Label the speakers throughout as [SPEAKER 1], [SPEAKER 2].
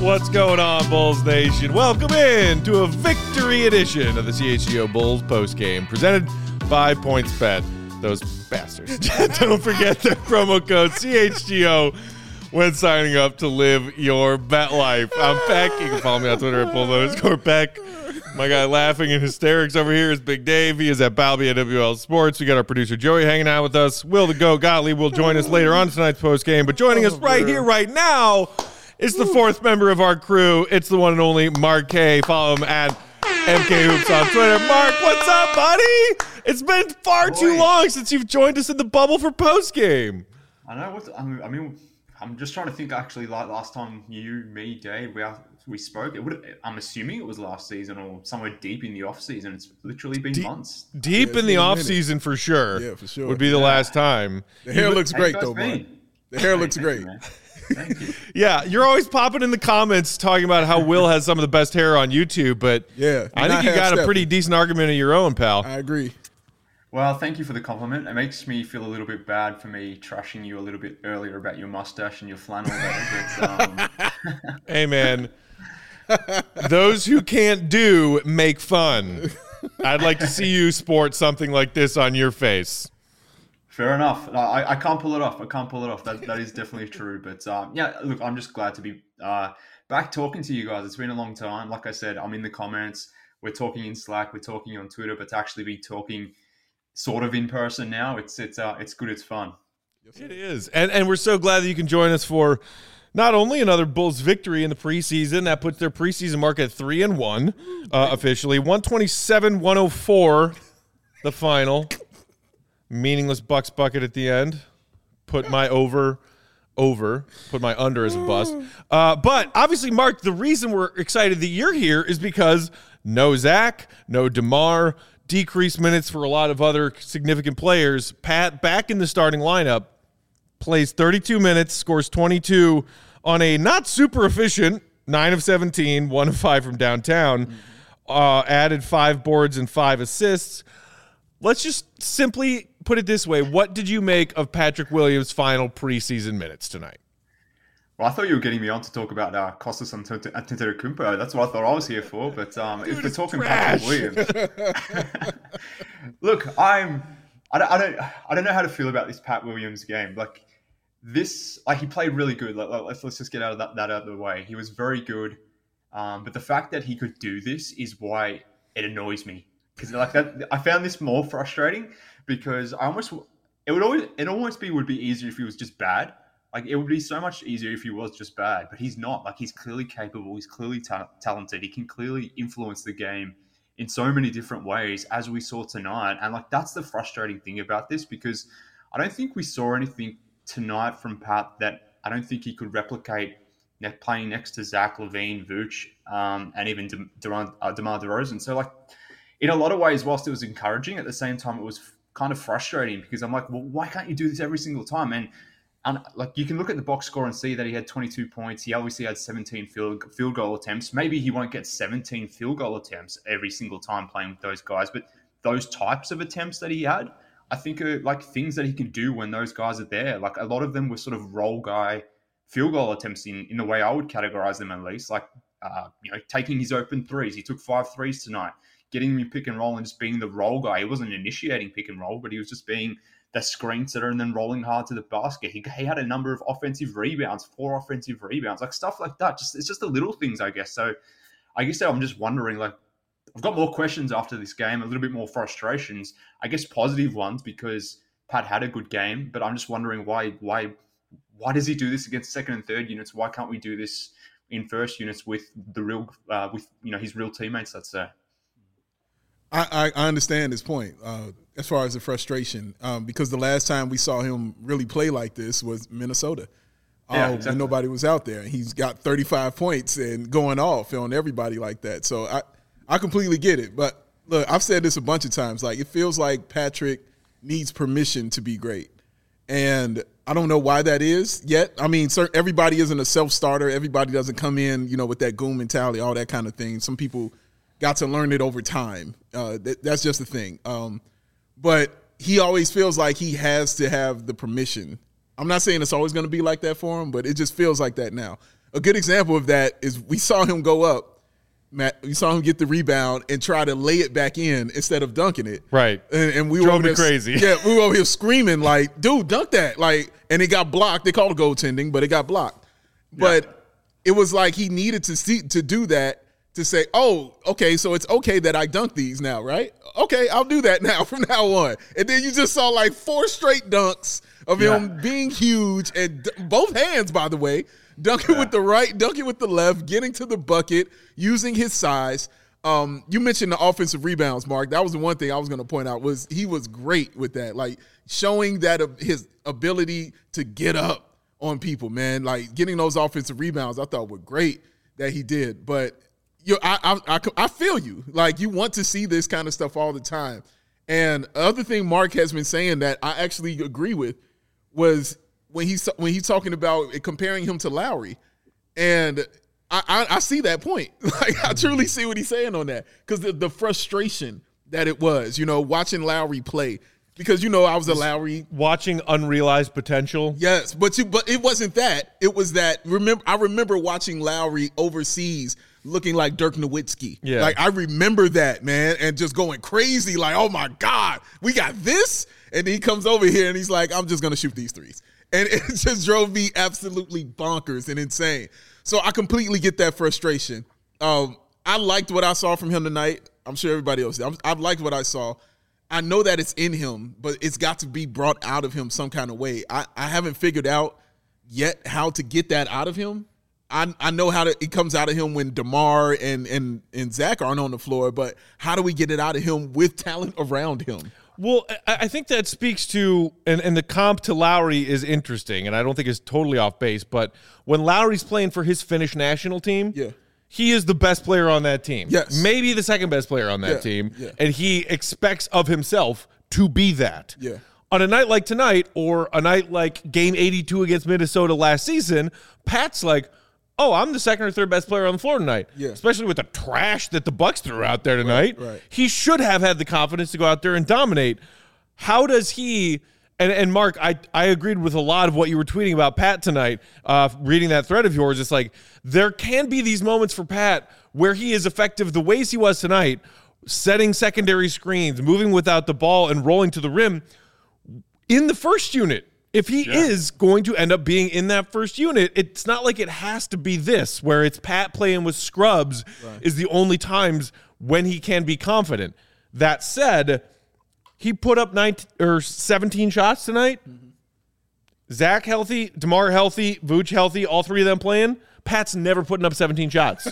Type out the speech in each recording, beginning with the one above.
[SPEAKER 1] What's going on, Bulls Nation? Welcome in to a victory edition of the CHGO Bulls postgame presented by PointsBet. Those bastards. Don't forget the promo code CHGO when signing up to live your bet life. I'm Peck. You can follow me on Twitter at Bull_Peck. My guy laughing in hysterics over here is Big Dave. He is at Balby at WL Sports. We got our producer Joey hanging out with us. Will the Go Gottlieb will join us later on tonight's postgame. But joining us right here, right now, is the fourth member of our crew. It's the one and only Mark K. Follow him at MK Hoops on Twitter. Mark, what's up, buddy? It's been far too long since you've joined us in the bubble for postgame.
[SPEAKER 2] I know. I'm just trying to think. Actually, like last time you, me, Dave, we spoke. I'm assuming it was last season or somewhere deep in the off season. It's literally been months.
[SPEAKER 1] Deep in the off season for sure.
[SPEAKER 3] Yeah, for sure.
[SPEAKER 1] Would be the last time.
[SPEAKER 3] The hair looks great though, man. The hair looks great.
[SPEAKER 2] Thank you.
[SPEAKER 1] Yeah, you're always popping in the comments talking about how Will has some of the best hair on YouTube, but
[SPEAKER 3] yeah,
[SPEAKER 1] I think you got a pretty decent argument of your own, pal.
[SPEAKER 3] I agree.
[SPEAKER 2] Well, thank you for the compliment. It makes me feel a little bit bad for me trashing you a little bit earlier about your mustache and your flannel.
[SPEAKER 1] Hey, man. Those who can't do make fun. I'd like to see you sport something like this on your face.
[SPEAKER 2] Fair enough. I can't pull it off. That is definitely true. But yeah, look, I'm just glad to be back talking to you guys. It's been a long time. Like I said, I'm in the comments. We're talking in Slack. We're talking on Twitter. But to actually be talking sort of in person now, it's good. It's fun.
[SPEAKER 1] It is. And we're so glad that you can join us for not only another Bulls victory in the preseason, that puts their preseason mark at 3-1 officially. 127-104, the final. Meaningless Bucks bucket at the end. Put my over. Put my under as a bust. But obviously, Mark, the reason we're excited that you're here is because no Zach, no DeMar, decreased minutes for a lot of other significant players. Pat, back in the starting lineup, plays 32 minutes, scores 22 on a not super efficient 9 of 17, 1 of 5 from downtown, added 5 boards and 5 assists. Let's just simply put it this way. What did you make of Patrick Williams' final preseason minutes tonight?
[SPEAKER 2] Well, I thought you were getting me on to talk about Kostas Antetokounmpo. That's what I thought I was here for. But if we're talking Patrick Williams, look, I don't know how to feel about this Pat Williams game. Like he played really good. Let's just get that out of the way. He was very good. But the fact that he could do this is why it annoys me. Because like that, I found this more frustrating because it would almost be easier if he was just bad. Like it would be so much easier if he was just bad, but he's not. Like he's clearly capable. He's clearly talented. He can clearly influence the game in so many different ways, as we saw tonight. And like that's the frustrating thing about this because I don't think we saw anything tonight from Pat that I don't think he could replicate playing next to Zach LaVine, Vooch, and even DeMar DeRozan. So like. In a lot of ways, whilst it was encouraging, at the same time, it was kind of frustrating because I'm like, well, why can't you do this every single time? And like you can look at the box score and see that he had 22 points. He obviously had 17 field goal attempts. Maybe he won't get 17 field goal attempts every single time playing with those guys. But those types of attempts that he had, I think are like things that he can do when those guys are there. Like a lot of them were sort of role guy field goal attempts in the way I would categorize them at least. Like, taking his open threes. He took 5 threes tonight. Getting him in pick and roll and just being the roll guy. He wasn't initiating pick and roll, but he was just being the screen setter and then rolling hard to the basket. He had a number of offensive rebounds, 4 offensive rebounds, like stuff like that. It's just the little things, I guess. So I guess I'm just wondering, like, I've got more questions after this game, a little bit more frustrations, I guess positive ones because Pat had a good game, but I'm just wondering why does he do this against second and third units? Why can't we do this in first units with his real teammates, let's say?
[SPEAKER 3] I understand his point as far as the frustration because the last time we saw him really play like this was Minnesota. When nobody was out there. He's got 35 points and going off on everybody like that. So I completely get it. But look, I've said this a bunch of times. Like it feels like Patrick needs permission to be great. And I don't know why that is yet. I mean, everybody isn't a self-starter. Everybody doesn't come in, with that goon mentality, all that kind of thing. Some people got to learn it over time. That's just the thing. But he always feels like he has to have the permission. I'm not saying it's always going to be like that for him, but it just feels like that now. A good example of that is we saw him go up, Matt. We saw him get the rebound and try to lay it back in instead of dunking it.
[SPEAKER 1] Right.
[SPEAKER 3] And we
[SPEAKER 1] drove
[SPEAKER 3] were
[SPEAKER 1] me crazy.
[SPEAKER 3] Yeah, we were over here screaming like, dude, dunk that. Like, and it got blocked. They called it goaltending, but it got blocked. But it was like he needed to do that to say, oh, okay, so it's okay that I dunk these now, right? Okay, I'll do that now from now on. And then you just saw like 4 straight dunks of him being huge and both hands, by the way, dunking with the right, dunking with the left, getting to the bucket, using his size. You mentioned the offensive rebounds, Mark. That was the one thing I was going to point out was he was great with that, like showing that his ability to get up on people, man. Like getting those offensive rebounds, I thought were great that he did. But I feel you. Like you want to see this kind of stuff all the time. And the other thing Mark has been saying that I actually agree with was when he's talking about comparing him to Lowry, and I see that point. Like I truly see what he's saying on that because the frustration that it was, watching Lowry play. Because I was a Lowry
[SPEAKER 1] watching unrealized potential.
[SPEAKER 3] Yes, but it wasn't that. It was that. I remember watching Lowry overseas, looking like Dirk Nowitzki.
[SPEAKER 1] Yeah,
[SPEAKER 3] like I remember that, man, and just going crazy, like, oh my God, we got this. And he comes over here and he's like, I'm just gonna shoot these threes, and it just drove me absolutely bonkers and insane. So I completely get that frustration. I liked what I saw from him tonight. I'm sure everybody else did. I liked what I saw. I know that it's in him, but it's got to be brought out of him some kind of way. I haven't figured out yet how to get that out of him. I know it comes out of him when DeMar and Zach aren't on the floor, but how do we get it out of him with talent around him?
[SPEAKER 1] Well, I think that speaks to, and the comp to Lowry is interesting, and I don't think it's totally off base, but when Lowry's playing for his Finnish national team, he is the best player on that team.
[SPEAKER 3] Yes.
[SPEAKER 1] Maybe the second best player on that team. Yeah. And he expects of himself to be that.
[SPEAKER 3] Yeah.
[SPEAKER 1] On a night like tonight or a night like game 82 against Minnesota last season, Pat's like, oh, I'm the second or third best player on the floor tonight.
[SPEAKER 3] Yeah.
[SPEAKER 1] Especially with the trash that the Bucks threw out there tonight.
[SPEAKER 3] Right.
[SPEAKER 1] He should have had the confidence to go out there and dominate. How does he... And Mark, I agreed with a lot of what you were tweeting about Pat tonight, reading that thread of yours. It's like there can be these moments for Pat where he is effective the ways he was tonight, setting secondary screens, moving without the ball, and rolling to the rim in the first unit. If he is going to end up being in that first unit, it's not like it has to be this, where it's Pat playing with scrubs is the only times when he can be confident. That said, he put up 17 shots tonight. Mm-hmm. Zach healthy, DeMar healthy, Vooch healthy, all three of them playing. Pat's never putting up 17 shots.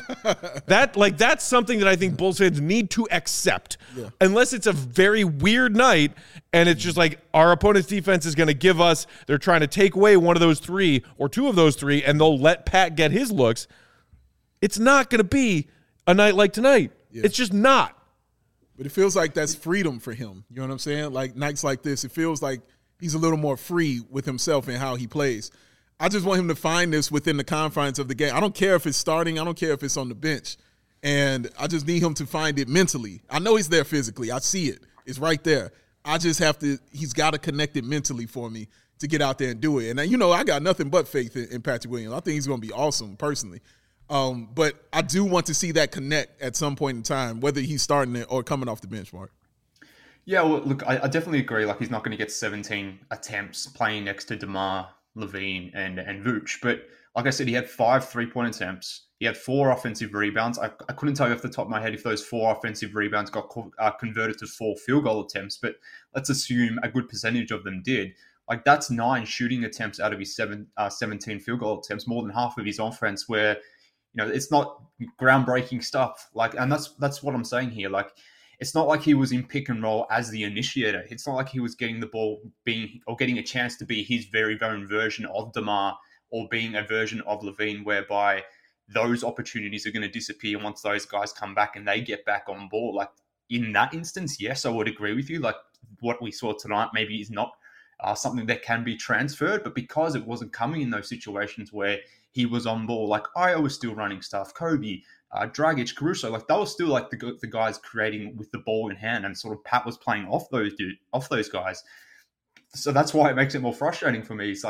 [SPEAKER 1] That's something that I think Bulls fans need to accept. Yeah. Unless it's a very weird night and it's just like our opponent's defense is going to give us, they're trying to take away one of those three or two of those three and they'll let Pat get his looks. It's not going to be a night like tonight. Yeah. It's just not.
[SPEAKER 3] But it feels like that's freedom for him. You know what I'm saying? Like nights like this, it feels like he's a little more free with himself and how he plays. I just want him to find this within the confines of the game. I don't care if it's starting. I don't care if it's on the bench. And I just need him to find it mentally. I know he's there physically. I see it. It's right there. I just have to – he's got to connect it mentally for me to get out there and do it. And, I got nothing but faith in Patrick Williams. I think he's going to be awesome personally. But I do want to see that connect at some point in time, whether he's starting it or coming off the bench, Mark.
[SPEAKER 2] Yeah, well, look, I definitely agree. Like, he's not going to get 17 attempts playing next to DeMar, LaVine, and Vooch. But like I said, he had 5 3-point attempts. He had 4 offensive rebounds. I couldn't tell you off the top of my head if those 4 offensive rebounds got converted to 4 field goal attempts, but let's assume a good percentage of them did. Like, that's 9 shooting attempts out of his 17 field goal attempts, more than half of his offense, where it's not groundbreaking stuff. Like, and that's what I'm saying here. Like, it's not like he was in pick and roll as the initiator. It's not like he was getting the ball getting a chance to be his very own version of DeMar or being a version of LaVine, whereby those opportunities are going to disappear once those guys come back and they get back on board. Like, in that instance, yes, I would agree with you. Like, what we saw tonight maybe is not something that can be transferred, but because it wasn't coming in those situations where he was on ball, like Io was still running stuff, Kobe, Dragic, Caruso, like they were still like the guys creating with the ball in hand, and sort of Pat was playing off those guys. So that's why it makes it more frustrating for me. It's like,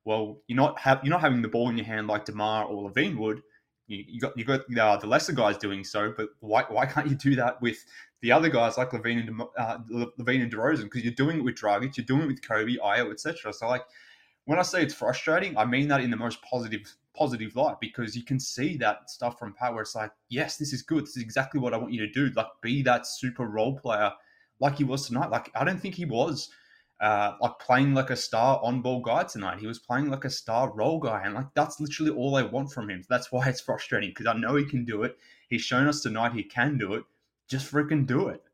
[SPEAKER 2] well, you're not having the ball in your hand like DeMar or Levine would. You got the lesser guys doing so, but why can't you do that with the other guys like Levine and DeRozan? Because you're doing it with Dragic, you're doing it with Kobe, Ayo, etc. So like when I say it's frustrating, I mean that in the most positive light, because you can see that stuff from Pat where it's like, yes, this is good. This is exactly what I want you to do. Like be that super role player like he was tonight. Like I don't think he was like playing like a star on-ball guy tonight. He was playing like a star role guy, and like that's literally all I want from him. That's why it's frustrating, because I know he can do it. He's shown us tonight he can do it. Just freaking do it.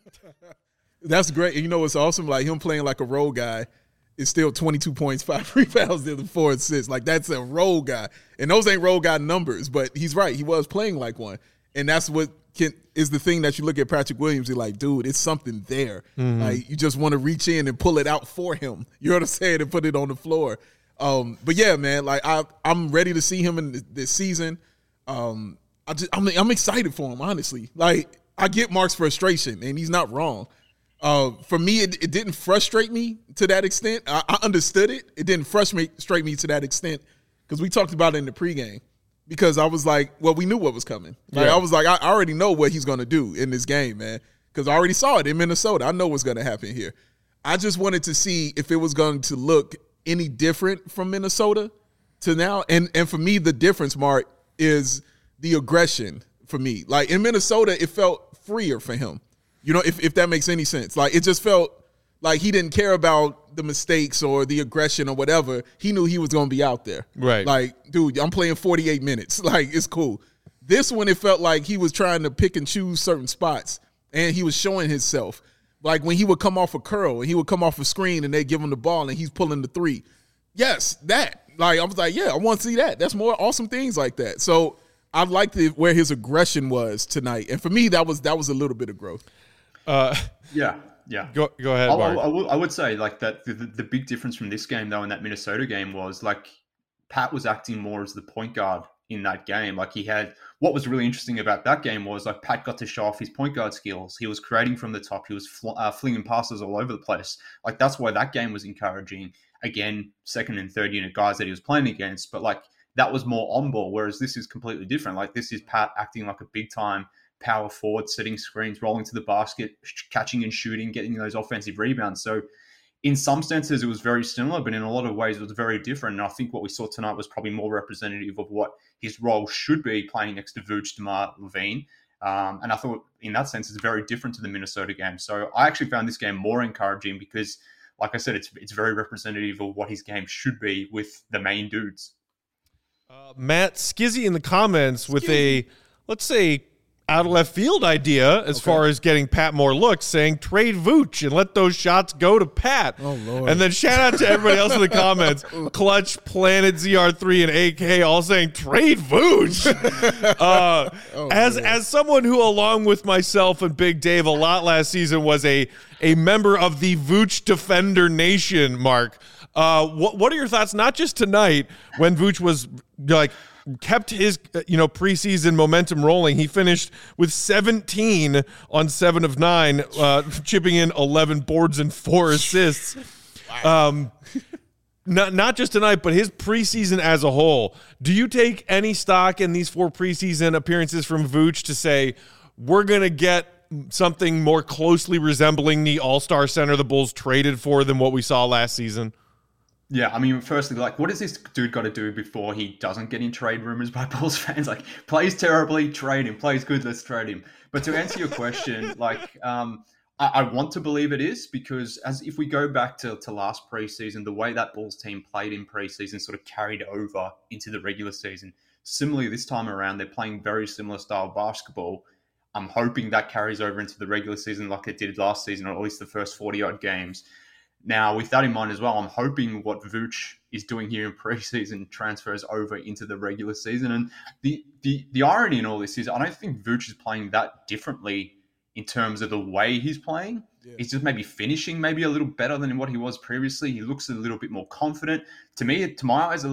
[SPEAKER 3] That's great. And you know what's awesome? Like him playing like a role guy is still 22 points, 5 rebounds, and 4 assists. Like that's a role guy, and those ain't role guy numbers. But he's right. He was playing like one, and that's what is the thing that you look at Patrick Williams, you're like, dude, it's something there. Mm-hmm. Like you just want to reach in and pull it out for him. You know what I'm saying? And put it on the floor. But yeah, man, like I'm ready to see him in this season. I'm excited for him, honestly. Like I get Mark's frustration, and he's not wrong. For me, it didn't frustrate me to that extent. I understood it. It didn't frustrate me to that extent because we talked about it in the pregame. Because I was like, well, we knew what was coming. Like, yeah. I was like, I already know what he's going to do in this game, man. Because I already saw it in Minnesota. I know what's going to happen here. I just wanted to see if it was going to look any different from Minnesota to now. And for me, the difference, Mark, is the aggression for me. Like, in Minnesota, it felt freer for him. You know, if that makes any sense. Like, it just felt like he didn't care about the mistakes or the aggression or whatever. He knew he was going to be out there.
[SPEAKER 1] Right.
[SPEAKER 3] Like, dude, I'm playing 48 minutes. Like, it's cool. This one, it felt like he was trying to pick and choose certain spots, and he was showing himself. Like, when he would come off a curl, and he would come off a screen, and they give him the ball, and he's pulling the three. Yes, that. Like, I was like, yeah, I want to see that. That's more awesome things like that. So I liked where his aggression was tonight. And for me, that was a little bit of growth.
[SPEAKER 2] Yeah.
[SPEAKER 1] Go ahead, Mark.
[SPEAKER 2] I would say like that the big difference from this game though in that Minnesota game was like Pat was acting more as the point guard in that game. Like he had what was really interesting about that game was like Pat got to show off his point guard skills. He was creating from the top. He was flinging passes all over the place. Like that's why that game was encouraging. Again, second and third unit guys that he was playing against, but like that was more on ball. Whereas this is completely different. Like this is Pat acting like a big time power forward, setting screens, rolling to the basket, catching and shooting, getting those offensive rebounds. So in some senses, it was very similar, but in a lot of ways, it was very different. And I think what we saw tonight was probably more representative of what his role should be playing next to Vooch, DeMar, Levine. And I thought in that sense, it's very different to the Minnesota game. So I actually found this game more encouraging because, like I said, it's very representative of what his game should be with the main dudes.
[SPEAKER 1] Matt Skizzy in the comments with a, let's say, out of left field idea as far as getting Pat more looks, saying trade Vooch and let those shots go to Pat.
[SPEAKER 3] Oh, Lord.
[SPEAKER 1] And then shout out to everybody else in the comments. Clutch, Planet, ZR3, and AK all saying trade Vooch. As someone who, along with myself and Big Dave, a lot last season was a member of the Vooch Defender Nation, Mark. What are your thoughts, not just tonight when Vooch was like kept his preseason momentum rolling? He finished with 17 on 7 of 9, chipping in 11 boards and 4 assists. Wow. Not just tonight, but his preseason as a whole. Do you take any stock in these 4 preseason appearances from Vooch to say we're going to get something more closely resembling the All-Star center the Bulls traded for than what we saw last season?
[SPEAKER 2] Yeah, I mean, firstly, like, what does this dude got to do before he doesn't get in trade rumors by Bulls fans? Like, plays terribly, trade him. Plays good, let's trade him. But to answer your question, like, I want to believe it is because if we go back to last preseason, the way that Bulls team played in preseason sort of carried over into the regular season. Similarly, this time around, they're playing very similar style basketball. I'm hoping that carries over into the regular season like it did last season, or at least the first 40-odd games. Now, with that in mind as well, I'm hoping what Vooch is doing here in preseason transfers over into the regular season. And the irony in all this is I don't think Vooch is playing that differently in terms of the way he's playing. He's just maybe finishing maybe a little better than what he was previously. He looks a little bit more confident. To me, to my eyes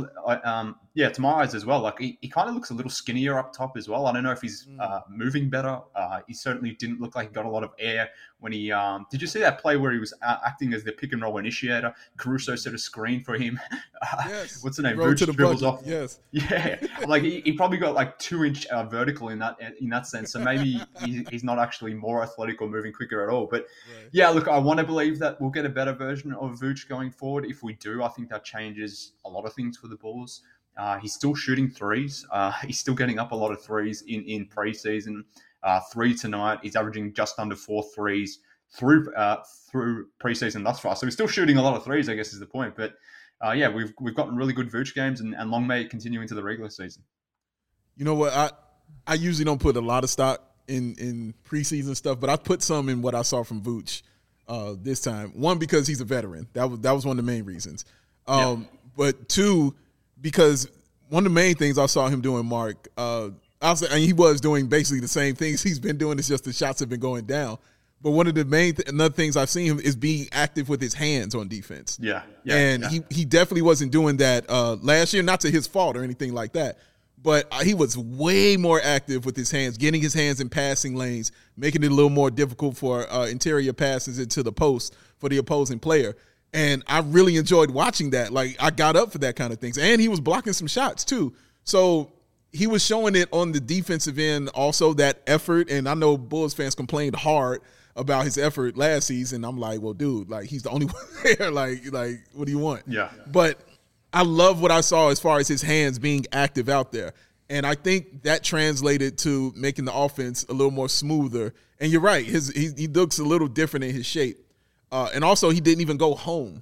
[SPEAKER 2] as well. Like he kind of looks a little skinnier up top as well. I don't know if he's moving better. He certainly didn't look like he got a lot of air when he. Did you see that play where he was acting as the pick and roll initiator? Caruso set a screen for him.
[SPEAKER 3] Yes.
[SPEAKER 2] What's the name?
[SPEAKER 3] Vooch
[SPEAKER 2] Dribbles
[SPEAKER 3] bucket.
[SPEAKER 2] off.
[SPEAKER 3] Yes.
[SPEAKER 2] Yeah, like he probably got like 2-inch vertical in that sense. So maybe he's not actually more athletic or moving quicker at all. But yeah, look, I want to believe that we'll get a better version of Vooch going forward. If we do, I think that changes a lot of things for the Bulls. He's still shooting threes. He's still getting up a lot of threes in preseason. 3 tonight. He's averaging just under 4 threes through preseason thus far. So he's still shooting a lot of threes, I guess is the point. But yeah, we've gotten really good Vooch games, and long may it continue into the regular season.
[SPEAKER 3] You know what? I usually don't put a lot of stock in preseason stuff, but I put some in what I saw from Vooch this time. One, because he's a veteran. That was one of the main reasons. But two, because one of the main things I saw him doing, Mark, he was doing basically the same things he's been doing. It's just the shots have been going down. But one of the main another things I've seen him is being active with his hands on defense. He definitely wasn't doing that last year, not to his fault or anything like that. But he was way more active with his hands, getting his hands in passing lanes, making it a little more difficult for interior passes into the post for the opposing player. And I really enjoyed watching that. Like, I got up for that kind of things. And he was blocking some shots, too. So he was showing it on the defensive end also, that effort. And I know Bulls fans complained hard about his effort last season. I'm like, well, dude, like, he's the only one there. Like, what do you want?
[SPEAKER 2] Yeah.
[SPEAKER 3] But I love what I saw as far as his hands being active out there. And I think that translated to making the offense a little more smoother. And you're right, he looks a little different in his shape. And also, he didn't even go home,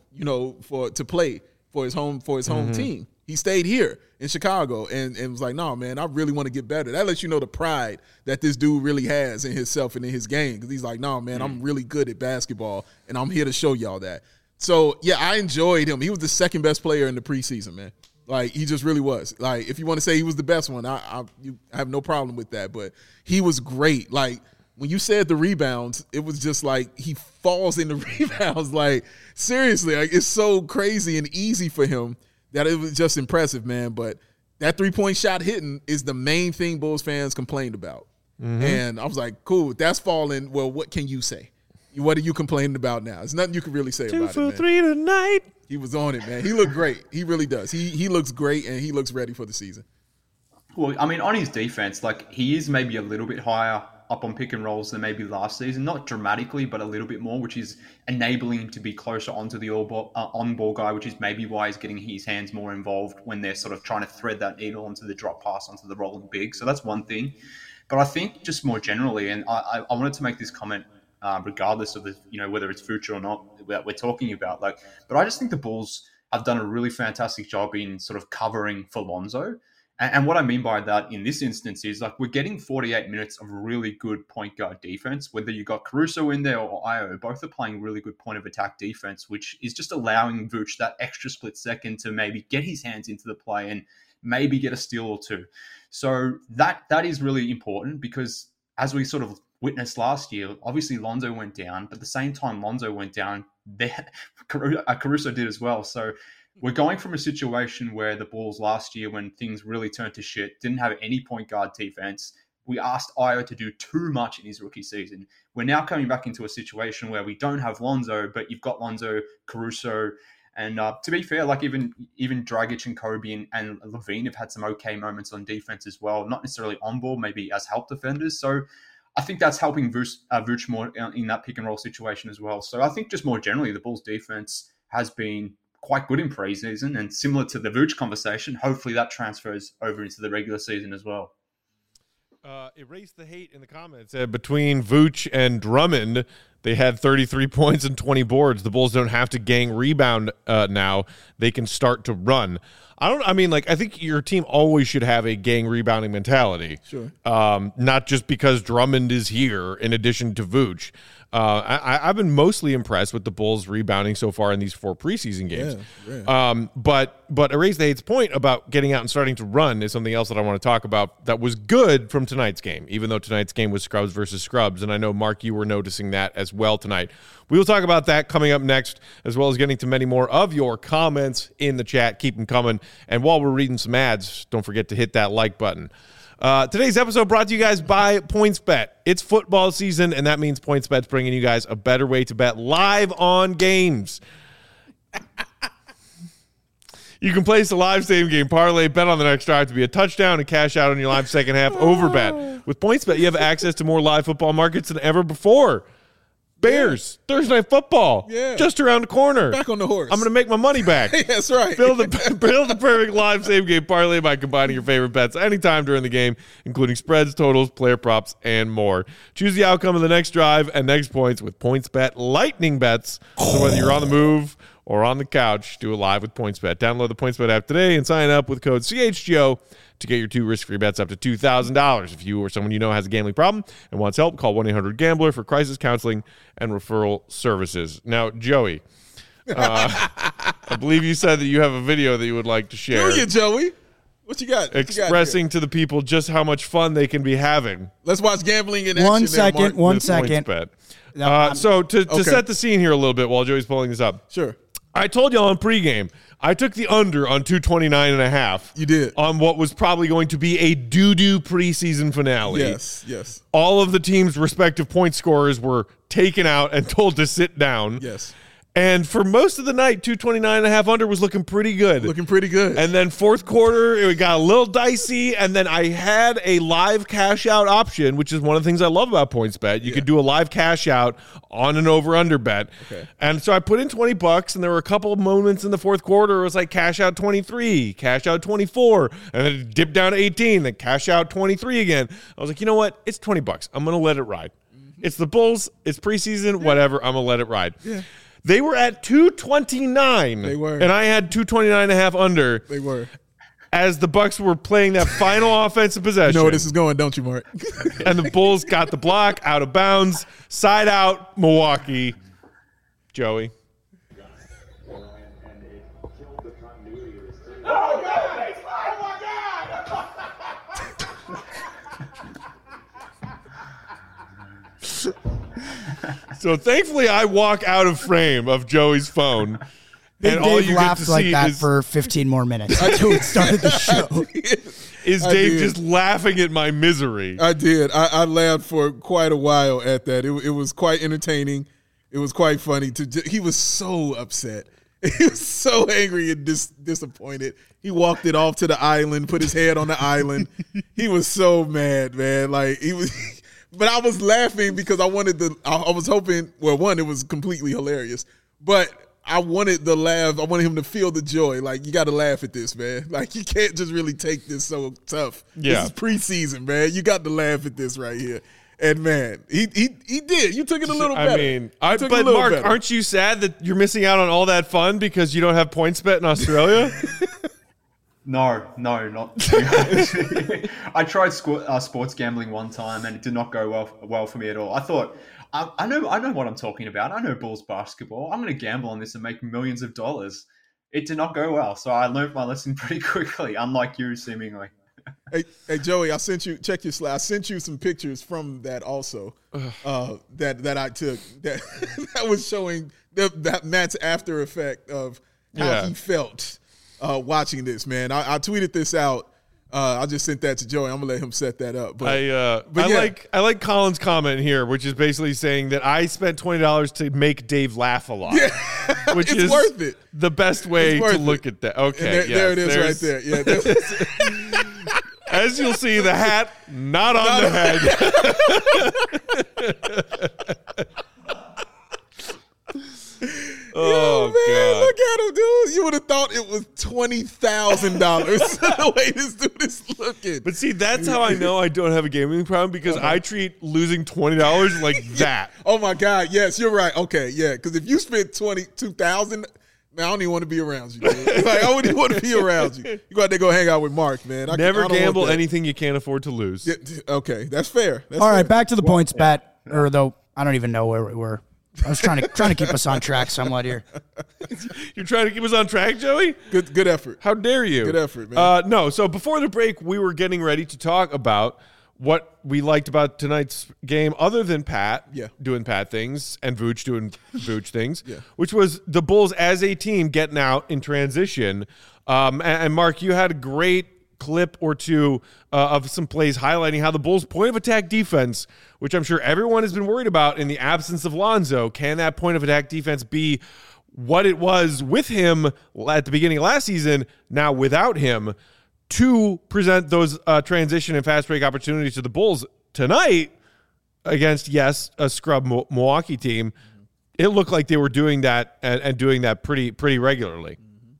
[SPEAKER 3] to play for his home team. He stayed here in Chicago and was like, no, man, I really want to get better. That lets you know the pride that this dude really has in himself and in his game. Because he's like, no, man, I'm really good at basketball, and I'm here to show y'all that. So, yeah, I enjoyed him. He was the second best player in the preseason, man. Like, he just really was. Like, if you want to say he was the best one, I have no problem with that. But he was great. Like, when you said the rebounds, it was just like he falls in the rebounds. Like, seriously, like, it's so crazy and easy for him that it was just impressive, man. But that three-point shot hitting is the main thing Bulls fans complained about. Mm-hmm. And I was like, cool, that's falling. Well, what can you say? What are you complaining about now? There's nothing you can really say about it, man.
[SPEAKER 1] 2 for 3 tonight.
[SPEAKER 3] He was on it, man. He looked great. He really does. He looks great, and he looks ready for the season.
[SPEAKER 2] Well, I mean, on his defense, like, he is maybe a little bit higher up on pick and rolls than maybe last season. Not dramatically, but a little bit more, which is enabling him to be closer onto the on-ball guy, which is maybe why he's getting his hands more involved when they're sort of trying to thread that needle onto the drop pass, onto the rolling big. So that's one thing. But I think just more generally, and I wanted to make this comment regardless of whether it's Vooch or not that we're talking about, but I just think the Bulls have done a really fantastic job in sort of covering for Lonzo. And what I mean by that in this instance is, like, we're getting 48 minutes of really good point guard defense. Whether you got Caruso in there or Ayo, both are playing really good point of attack defense, which is just allowing Vooch that extra split second to maybe get his hands into the play and maybe get a steal or two. So that is really important, because as we sort of witnessed last year, obviously Lonzo went down, but at the same time Lonzo went down, Caruso did as well. So we're going from a situation where the Bulls last year, when things really turned to shit, didn't have any point guard defense. We asked Ayo to do too much in his rookie season. We're now coming back into a situation where we don't have Lonzo, but you've got Lonzo, Caruso, and to be fair, like even Dragic and Kobe and Levine have had some okay moments on defense as well. Not necessarily on ball, maybe as help defenders. So I think that's helping Vooch more in that pick and roll situation as well. So I think just more generally, the Bulls defense has been quite good in preseason, and similar to the Vooch conversation, hopefully that transfers over into the regular season as well.
[SPEAKER 1] Erase the hate in the comments. Between Vooch and Drummond, they had 33 points and 20 boards. The Bulls don't have to gang rebound now. They can start to run. I think your team always should have a gang rebounding mentality.
[SPEAKER 3] Sure.
[SPEAKER 1] Not just because Drummond is here in addition to Vooch. I've been mostly impressed with the Bulls rebounding so far in these 4 preseason games.
[SPEAKER 3] Yeah.
[SPEAKER 1] But Erase the Hate's point about getting out and starting to run is something else that I want to talk about that was good from tonight's game, even though tonight's game was scrubs versus scrubs. And I know, Mark, you were noticing that as well tonight. We will talk about that coming up next, as well as getting to many more of your comments in the chat. Keep them coming. And while we're reading some ads, don't forget to hit that like button. Today's episode brought to you guys by PointsBet. It's football season, and that means PointsBet's bringing you guys a better way to bet live on games. You can place a live same-game parlay, bet on the next drive to be a touchdown, and cash out on your live second-half over bet. With PointsBet, you have access to more live football markets than ever before. Bears, Thursday Night Football, just around the corner.
[SPEAKER 3] Back on the horse.
[SPEAKER 1] I'm going to make my money back.
[SPEAKER 3] That's right.
[SPEAKER 1] Build the perfect live same-game parlay by combining your favorite bets anytime during the game, including spreads, totals, player props, and more. Choose the outcome of the next drive and next points with PointsBet Lightning Bets. So whether you're on the move or on the couch, do it live with PointsBet. Download the PointsBet app today and sign up with code CHGO to get your 2 risk-free bets up to $2,000. If you or someone you know has a gambling problem and wants help, call 1-800-GAMBLER for crisis counseling and referral services. Now, Joey, I believe you said that you have a video that you would like to share.
[SPEAKER 3] Do you, Joey? What you got?
[SPEAKER 1] Expressing to the people just how much fun they can be having.
[SPEAKER 3] Let's watch gambling in action.
[SPEAKER 4] One second.
[SPEAKER 1] So to set the scene here a little bit while Joey's pulling this up.
[SPEAKER 3] Sure.
[SPEAKER 1] I told y'all in pregame, I took the under on 229.5.
[SPEAKER 3] You did.
[SPEAKER 1] On what was probably going to be a doo-doo preseason finale.
[SPEAKER 3] Yes.
[SPEAKER 1] All of the team's respective point scorers were taken out and told to sit down.
[SPEAKER 3] Yes.
[SPEAKER 1] And for most of the night, 229.5 under was looking pretty good. And then fourth quarter, it got a little dicey. And then I had a live cash out option, which is one of the things I love about PointsBet. You could do a live cash out on an over-under bet.
[SPEAKER 3] Okay.
[SPEAKER 1] And so I put in $20, and there were a couple of moments in the fourth quarter. It was like cash out 23, cash out 24, and then it dipped down to 18, then cash out 23 again. I was like, you know what? It's $20. I'm going to let it ride. It's the Bulls. It's preseason. Whatever. I'm going to let it ride.
[SPEAKER 3] Yeah.
[SPEAKER 1] They were at 229.
[SPEAKER 3] They were.
[SPEAKER 1] And I had 229.5 under.
[SPEAKER 3] They were.
[SPEAKER 1] As the Bucks were playing that final offensive possession.
[SPEAKER 3] You know where this is going, don't you, Mark?
[SPEAKER 1] And the Bulls got the block out of bounds. Side out, Milwaukee. Joey.
[SPEAKER 5] Oh, God! Oh, my God!
[SPEAKER 1] So thankfully, I walk out of frame of Joey's phone.
[SPEAKER 4] And all you laughed get to like see that for 15 more minutes until it started the show.
[SPEAKER 1] Is Dave just laughing at my misery?
[SPEAKER 3] I did. I laughed for quite a while at that. It was quite entertaining. It was quite funny. He was so upset. He was so angry and disappointed. He walked it off to the island, put his head on the island. He was so mad, man. Like he was. But I was laughing because I was hoping, well, one, it was completely hilarious, but I wanted the laugh. I wanted him to feel the joy. Like, you got to laugh at this, man. Like, you can't just really take this so tough.
[SPEAKER 1] Yeah.
[SPEAKER 3] This is preseason, man. You got to laugh at this right here. And, man, he did. You took it a little better.
[SPEAKER 1] I mean, but Mark, aren't you sad that you're missing out on all that fun because you don't have PointsBet in Australia?
[SPEAKER 2] No, not. I tried sports gambling one time, and it did not go well for me at all. I thought, I know what I'm talking about. I know Bulls basketball. I'm going to gamble on this and make millions of dollars. It did not go well, so I learned my lesson pretty quickly. Unlike you, seemingly.
[SPEAKER 3] Hey, Joey, check your slide. I sent you some pictures from that also. That I took that was showing that Matt's after effect of how he felt. Watching this, man. I tweeted this out. I just sent that to Joey. I'm gonna let him set that up. But
[SPEAKER 1] I like Colin's comment here, which is basically saying that I spent $20 to make Dave laugh a lot, which is
[SPEAKER 3] worth it.
[SPEAKER 1] The best way to look at that. Okay,
[SPEAKER 3] there it is, right there. Yeah.
[SPEAKER 1] As you'll see, the hat not on the head. Oh,
[SPEAKER 3] man,
[SPEAKER 1] God.
[SPEAKER 3] look at him, dude. You would have thought it was $20,000 the way this dude is looking.
[SPEAKER 1] But see, that's how I know I don't have a gambling problem, because I treat losing $20 like that.
[SPEAKER 3] Oh, my God. Yes, you're right. Okay, yeah, because if you spent $22,000, Man, I don't even want to be around you, man. Like, I wouldn't even want to be around you. You got to go hang out with Mark, man.
[SPEAKER 1] Never gamble anything you can't afford to lose.
[SPEAKER 3] Yeah, okay, that's fair.
[SPEAKER 4] All right, back to the points, Pat. Or though I don't even know where we were. I was trying to keep us on track somewhat here.
[SPEAKER 1] You're trying to keep us on track, Joey?
[SPEAKER 3] Good effort.
[SPEAKER 1] How dare you?
[SPEAKER 3] Good effort, man.
[SPEAKER 1] No, so before the break, we were getting ready to talk about what we liked about tonight's game, other than Pat doing Pat things and Vooch doing Vooch things, which was the Bulls as a team getting out in transition. And Mark, you had a great clip or two of some plays highlighting how the Bulls' point of attack defense, which I'm sure everyone has been worried about in the absence of Lonzo, can that point of attack defense be what it was with him at the beginning of last season, now without him, to present those transition and fast break opportunities to the Bulls tonight against, a scrub Milwaukee team. It looked like they were doing that and doing that pretty regularly.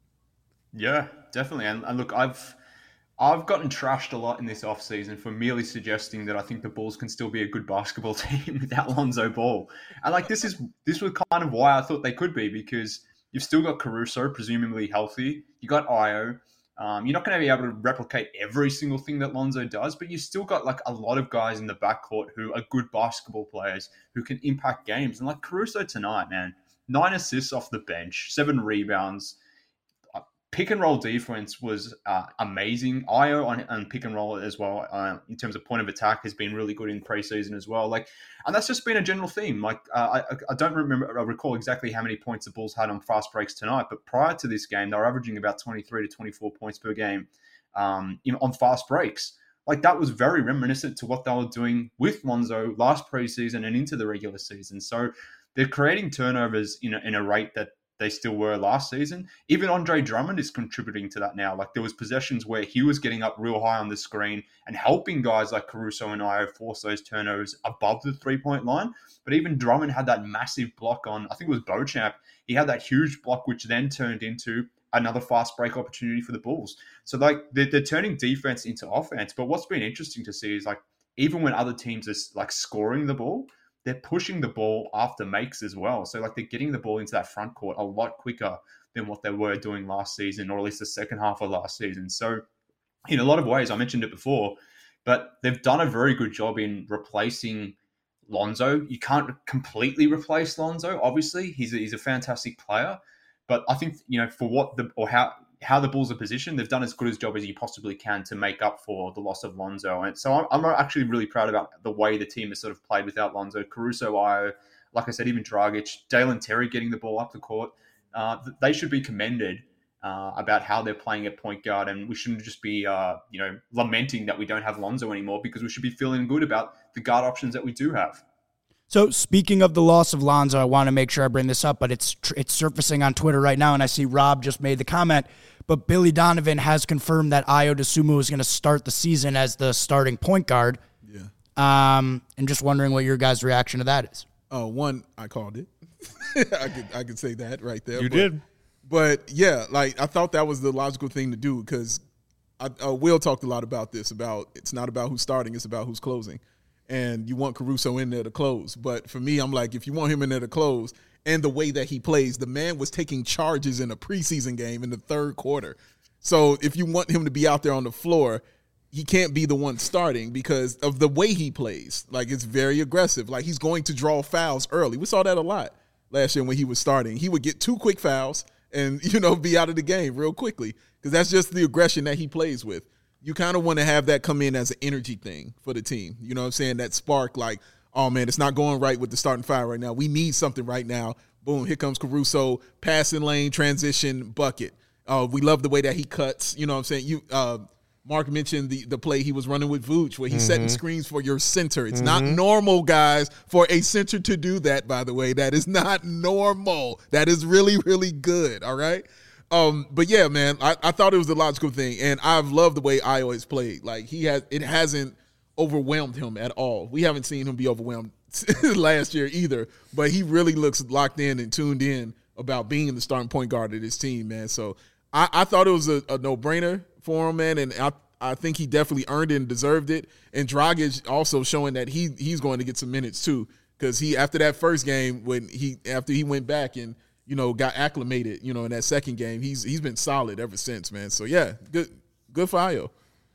[SPEAKER 2] Yeah, definitely. And look, I've gotten trashed a lot in this offseason for merely suggesting that I think the Bulls can still be a good basketball team without Lonzo Ball. And like this was kind of why I thought they could be, because you've still got Caruso presumably healthy. You got Ayo. You're not going to be able to replicate every single thing that Lonzo does, but you've still got like a lot of guys in the backcourt who are good basketball players who can impact games. And like Caruso tonight, man, 9 assists off the bench, 7 rebounds. Pick and roll defense was amazing. Ayo on pick and roll as well, in terms of point of attack, has been really good in preseason as well. Like, and that's just been a general theme. Like, I don't recall exactly how many points the Bulls had on fast breaks tonight, but prior to this game, they were averaging about 23 to 24 points per game on fast breaks. Like, that was very reminiscent to what they were doing with Lonzo last preseason and into the regular season. So they're creating turnovers in a rate that they still were last season. Even Andre Drummond is contributing to that now. Like, there was possessions where he was getting up real high on the screen and helping guys like Caruso and Ayo force those turnovers above the 3-point line. But even Drummond had that massive block on, I think it was Beauchamp. He had that huge block, which then turned into another fast break opportunity for the Bulls. So like they're turning defense into offense. But what's been interesting to see is like, even when other teams are like scoring the ball, they're pushing the ball after makes as well. So like they're getting the ball into that front court a lot quicker than what they were doing last season, or at least the second half of last season. So in a lot of ways, I mentioned it before, but they've done a very good job in replacing Lonzo. You can't completely replace Lonzo, obviously. He's a fantastic player. But I think, for how the Bulls are positioned, they've done as good a job as you possibly can to make up for the loss of Lonzo. And so I'm actually really proud about the way the team has sort of played without Lonzo. Caruso, Ayo, like I said, even Dragic, Dalen Terry getting the ball up the court. They should be commended about how they're playing at point guard. And we shouldn't just be, lamenting that we don't have Lonzo anymore, because we should be feeling good about the guard options that we do have.
[SPEAKER 4] So speaking of the loss of Lonzo, I want to make sure I bring this up, but it's surfacing on Twitter right now, and I see Rob just made the comment, but Billy Donovan has confirmed that Ayo Dosunmu is going to start the season as the starting point guard.
[SPEAKER 3] Yeah.
[SPEAKER 4] And just wondering what your guys' reaction to that is.
[SPEAKER 3] One, I called it. I could say that right there.
[SPEAKER 1] You did.
[SPEAKER 3] But yeah, like I thought that was the logical thing to do, because Will talked a lot about this, about it's not about who's starting, it's about who's closing. And you want Caruso in there to close. But for me, I'm like, if you want him in there to close, and the way that he plays, the man was taking charges in a preseason game in the third quarter. So if you want him to be out there on the floor, he can't be the one starting because of the way he plays. Like, it's very aggressive. Like, he's going to draw fouls early. We saw that a lot last year when he was starting. He would get 2 quick fouls and, be out of the game real quickly, because that's just the aggression that he plays with. You kind of want to have that come in as an energy thing for the team. You know what I'm saying? That spark, like, oh, man, it's not going right with the starting five right now. We need something right now. Boom, here comes Caruso, passing lane, transition, bucket. We love the way that he cuts. You know what I'm saying? Mark mentioned the play he was running with Vooch, where he's setting screens for your center. It's not normal, guys, for a center to do that, by the way. That is not normal. That is really, really good, all right? But yeah, man, I thought it was the logical thing, and I've loved the way Ayo has played. Like, it hasn't overwhelmed him at all. We haven't seen him be overwhelmed last year either, but he really looks locked in and tuned in about being the starting point guard of this team, man. So I thought it was a no-brainer for him, man, and I think he definitely earned it and deserved it. And Dragic also showing that he's going to get some minutes too, because after that first game, after he went back and got acclimated, in that second game. He's been solid ever since, man. So yeah, good for Ayo.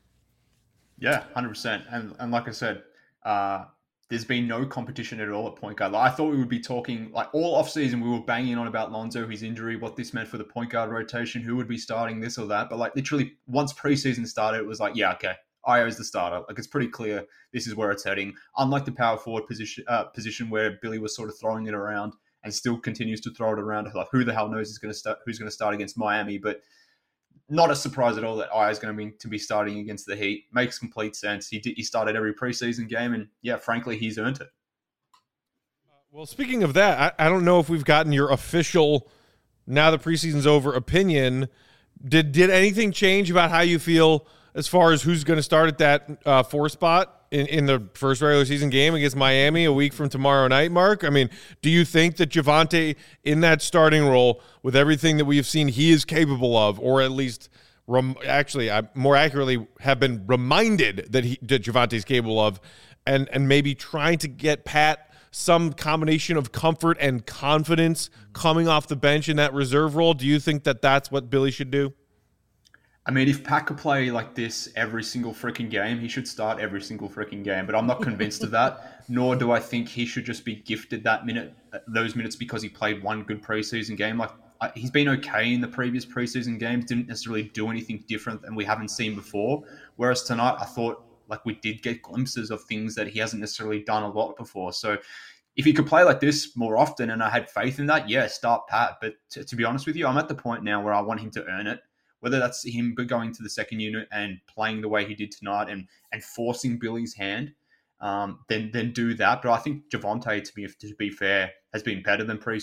[SPEAKER 2] Yeah, 100%. And like I said, there's been no competition at all at point guard. Like, I thought we would be talking, like, all offseason we were banging on about Lonzo, his injury, what this meant for the point guard rotation, who would be starting this or that. But, like, literally once preseason started, it was like, yeah, okay, Ayo's the starter. Like, it's pretty clear this is where it's heading. Unlike the power forward position where Billy was sort of throwing it around and still continues to throw it around. Like, who the hell knows who's going to start against Miami? But not a surprise at all that Ayo is going to be starting against the Heat. Makes complete sense. He started every preseason game, and yeah, frankly, he's earned it.
[SPEAKER 1] Well, speaking of that, I don't know if we've gotten your official, now the preseason's over, opinion. Did anything change about how you feel as far as who's going to start at that 4 spot in the first regular season game against Miami a week from tomorrow night, Mark? I mean, do you think that Javonte in that starting role, with everything that we have seen he is capable of, or at least more accurately have been reminded that Javonte is capable of, and maybe trying to get Pat some combination of comfort and confidence coming off the bench in that reserve role? Do you think that that's what Billy should do?
[SPEAKER 2] I mean, if Pat could play like this every single freaking game, he should start every single freaking game. But I'm not convinced of that, nor do I think he should just be gifted those minutes because he played one good preseason game. Like, he's been okay in the previous preseason games, didn't necessarily do anything different than we haven't seen before. Whereas tonight, I thought like we did get glimpses of things that he hasn't necessarily done a lot before. So if he could play like this more often, and I had faith in that, yeah, start Pat. But to be honest with you, I'm at the point now where I want him to earn it. Whether that's him going to the second unit and playing the way he did tonight and forcing Billy's hand, then do that. But I think Javonte, to be fair, has been better than Pat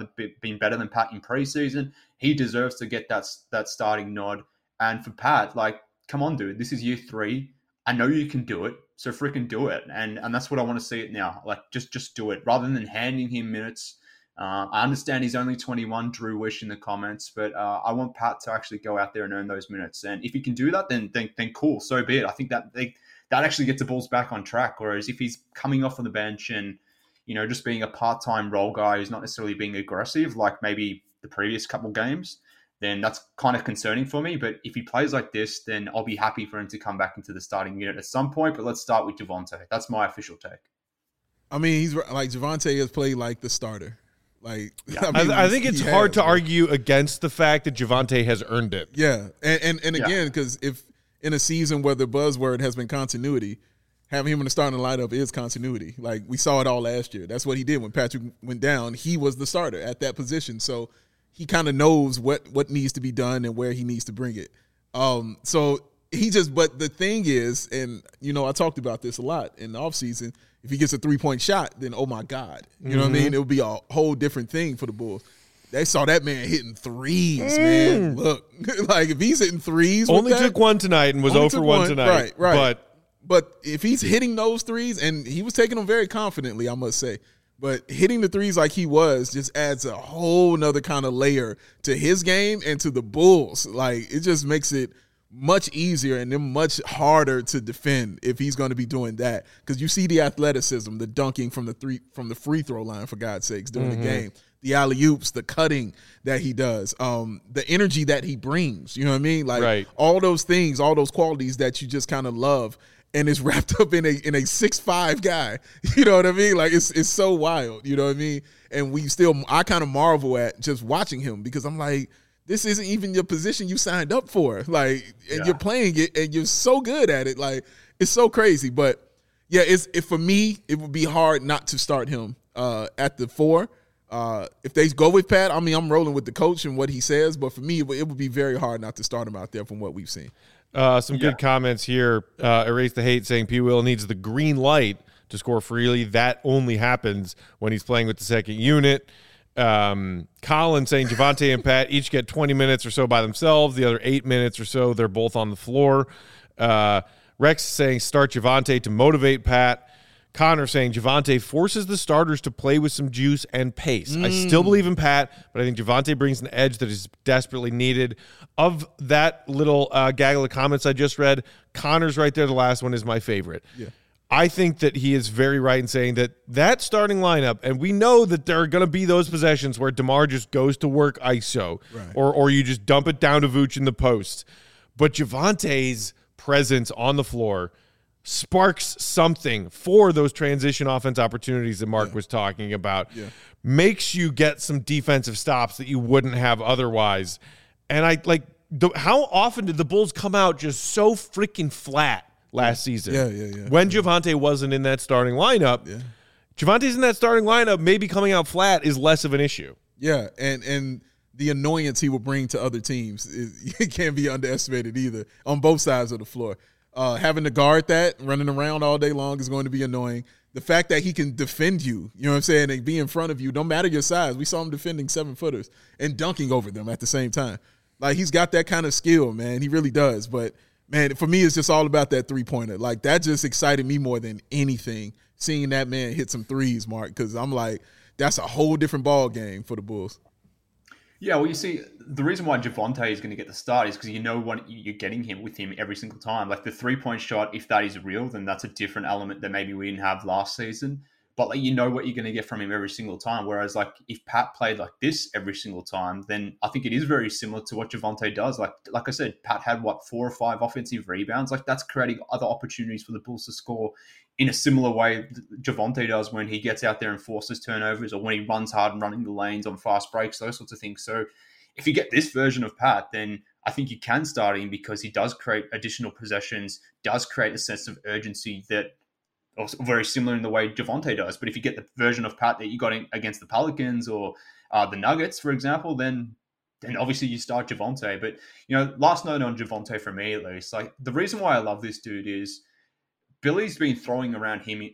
[SPEAKER 2] in preseason. He deserves to get that starting nod. And for Pat, like, come on, dude, this is year 3. I know you can do it, so freaking do it. And that's what I want to see it now. Like, just do it rather than handing him minutes. I understand he's only 21, Drew Wish in the comments, but I want Pat to actually go out there and earn those minutes. And if he can do that, then cool, so be it. I think that actually gets the Bulls back on track. Whereas if he's coming off on the bench and, just being a part-time role guy who's not necessarily being aggressive, like maybe the previous couple games, then that's kind of concerning for me. But if he plays like this, then I'll be happy for him to come back into the starting unit at some point. But let's start with Javonte. That's my official take.
[SPEAKER 3] I mean, he's like, Javonte has played like the starter. Like,
[SPEAKER 1] yeah. I think it's hard to argue against the fact that Javonte has earned it.
[SPEAKER 3] Yeah, and again, because if in a season where the buzzword has been continuity, having him in the starting lineup is continuity. Like, we saw it all last year. That's what he did when Patrick went down. He was the starter at that position, so he kind of knows what needs to be done and where he needs to bring it. So he just. But the thing is, and I talked about this a lot in the offseason. If he gets a 3-point shot, then oh my God, you know what I mean? It would be a whole different thing for the Bulls. They saw that man hitting threes, man. Look, like if he's hitting threes,
[SPEAKER 1] only took one tonight and was 0 for 1 tonight.
[SPEAKER 3] Right. But if he's hitting those threes, and he was taking them very confidently, I must say. But hitting the threes like he was just adds a whole nother kind of layer to his game and to the Bulls. Like, it just makes it much easier and then much harder to defend if he's going to be doing that, because you see the athleticism, the dunking from the free throw line, for God's sakes, during the game, the alley-oops, the cutting that he does, the energy that he brings, you know what I mean? Like, all those things, all those qualities that you just kind of love, and it's wrapped up in a 6'5" guy, you know what I mean? Like, it's so wild, you know what I mean? And I kind of marvel at just watching him, because I'm like, this isn't even your position you signed up for. Like, and you're playing it, and you're so good at it. Like, it's so crazy. But yeah, for me, it would be hard not to start him at the 4. If they go with Pat, I mean, I'm rolling with the coach and what he says. But for me, it would be very hard not to start him out there from what we've seen.
[SPEAKER 1] Some good comments here. Erase the Hate saying P. Will needs the green light to score freely. That only happens when he's playing with the second unit. Colin saying Javonte and Pat each get 20 minutes or so by themselves. The other 8 minutes or so, they're both on the floor. Rex saying start Javonte to motivate Pat. Connor saying Javonte forces the starters to play with some juice and pace. I still believe in Pat, but I think Javonte brings an edge that is desperately needed. Of that little gaggle of comments I just read, Connor's right there, the last one, is my favorite. Yeah. I think that he is very right in saying that starting lineup, and we know that there are going to be those possessions where DeMar just goes to work ISO, or you just dump it down to Vooch in the post. But Javonte's presence on the floor sparks something for those transition offense opportunities that Mark was talking about, makes you get some defensive stops that you wouldn't have otherwise. And how often did the Bulls come out just so freaking flat last season? When Javonte wasn't in that starting lineup, Javonte's in that starting lineup, maybe coming out flat is less of an issue.
[SPEAKER 3] Yeah, and the annoyance he will bring to other teams it can't be underestimated either on both sides of the floor. Having to guard that, running around all day long is going to be annoying. The fact that he can defend you, you know what I'm saying, and be in front of you, no matter your size. We saw him defending 7-footers and dunking over them at the same time. Like, he's got that kind of skill, man. He really does. But, man, for me, it's just all about that three-pointer. Like, that just excited me more than anything, seeing that man hit some threes, Mark, because I'm like, that's a whole different ball game for the Bulls.
[SPEAKER 2] Yeah, well, you see, the reason why Javonte is going to get the start is because you know what you're getting him with him every single time. Like the 3-point shot, if that is real, then that's a different element that maybe we didn't have last season. But like, you know what you're going to get from him every single time. Whereas like if Pat played like this every single time, then I think it is very similar to what Javonte does. Like I said, Pat had 4 or 5 offensive rebounds. Like that's creating other opportunities for the Bulls to score in a similar way Javonte does when he gets out there and forces turnovers, or when he runs hard and running the lanes on fast breaks, those sorts of things. So if you get this version of Pat, then I think you can start him because he does create additional possessions, does create a sense of urgency that also very similar in the way Javonte does. But if you get the version of Pat that you got against the Pelicans or the Nuggets, for example, then obviously you start Javonte. But, you know, last note on Javonte for me at least, like the reason why I love this dude is Billy's been throwing him around in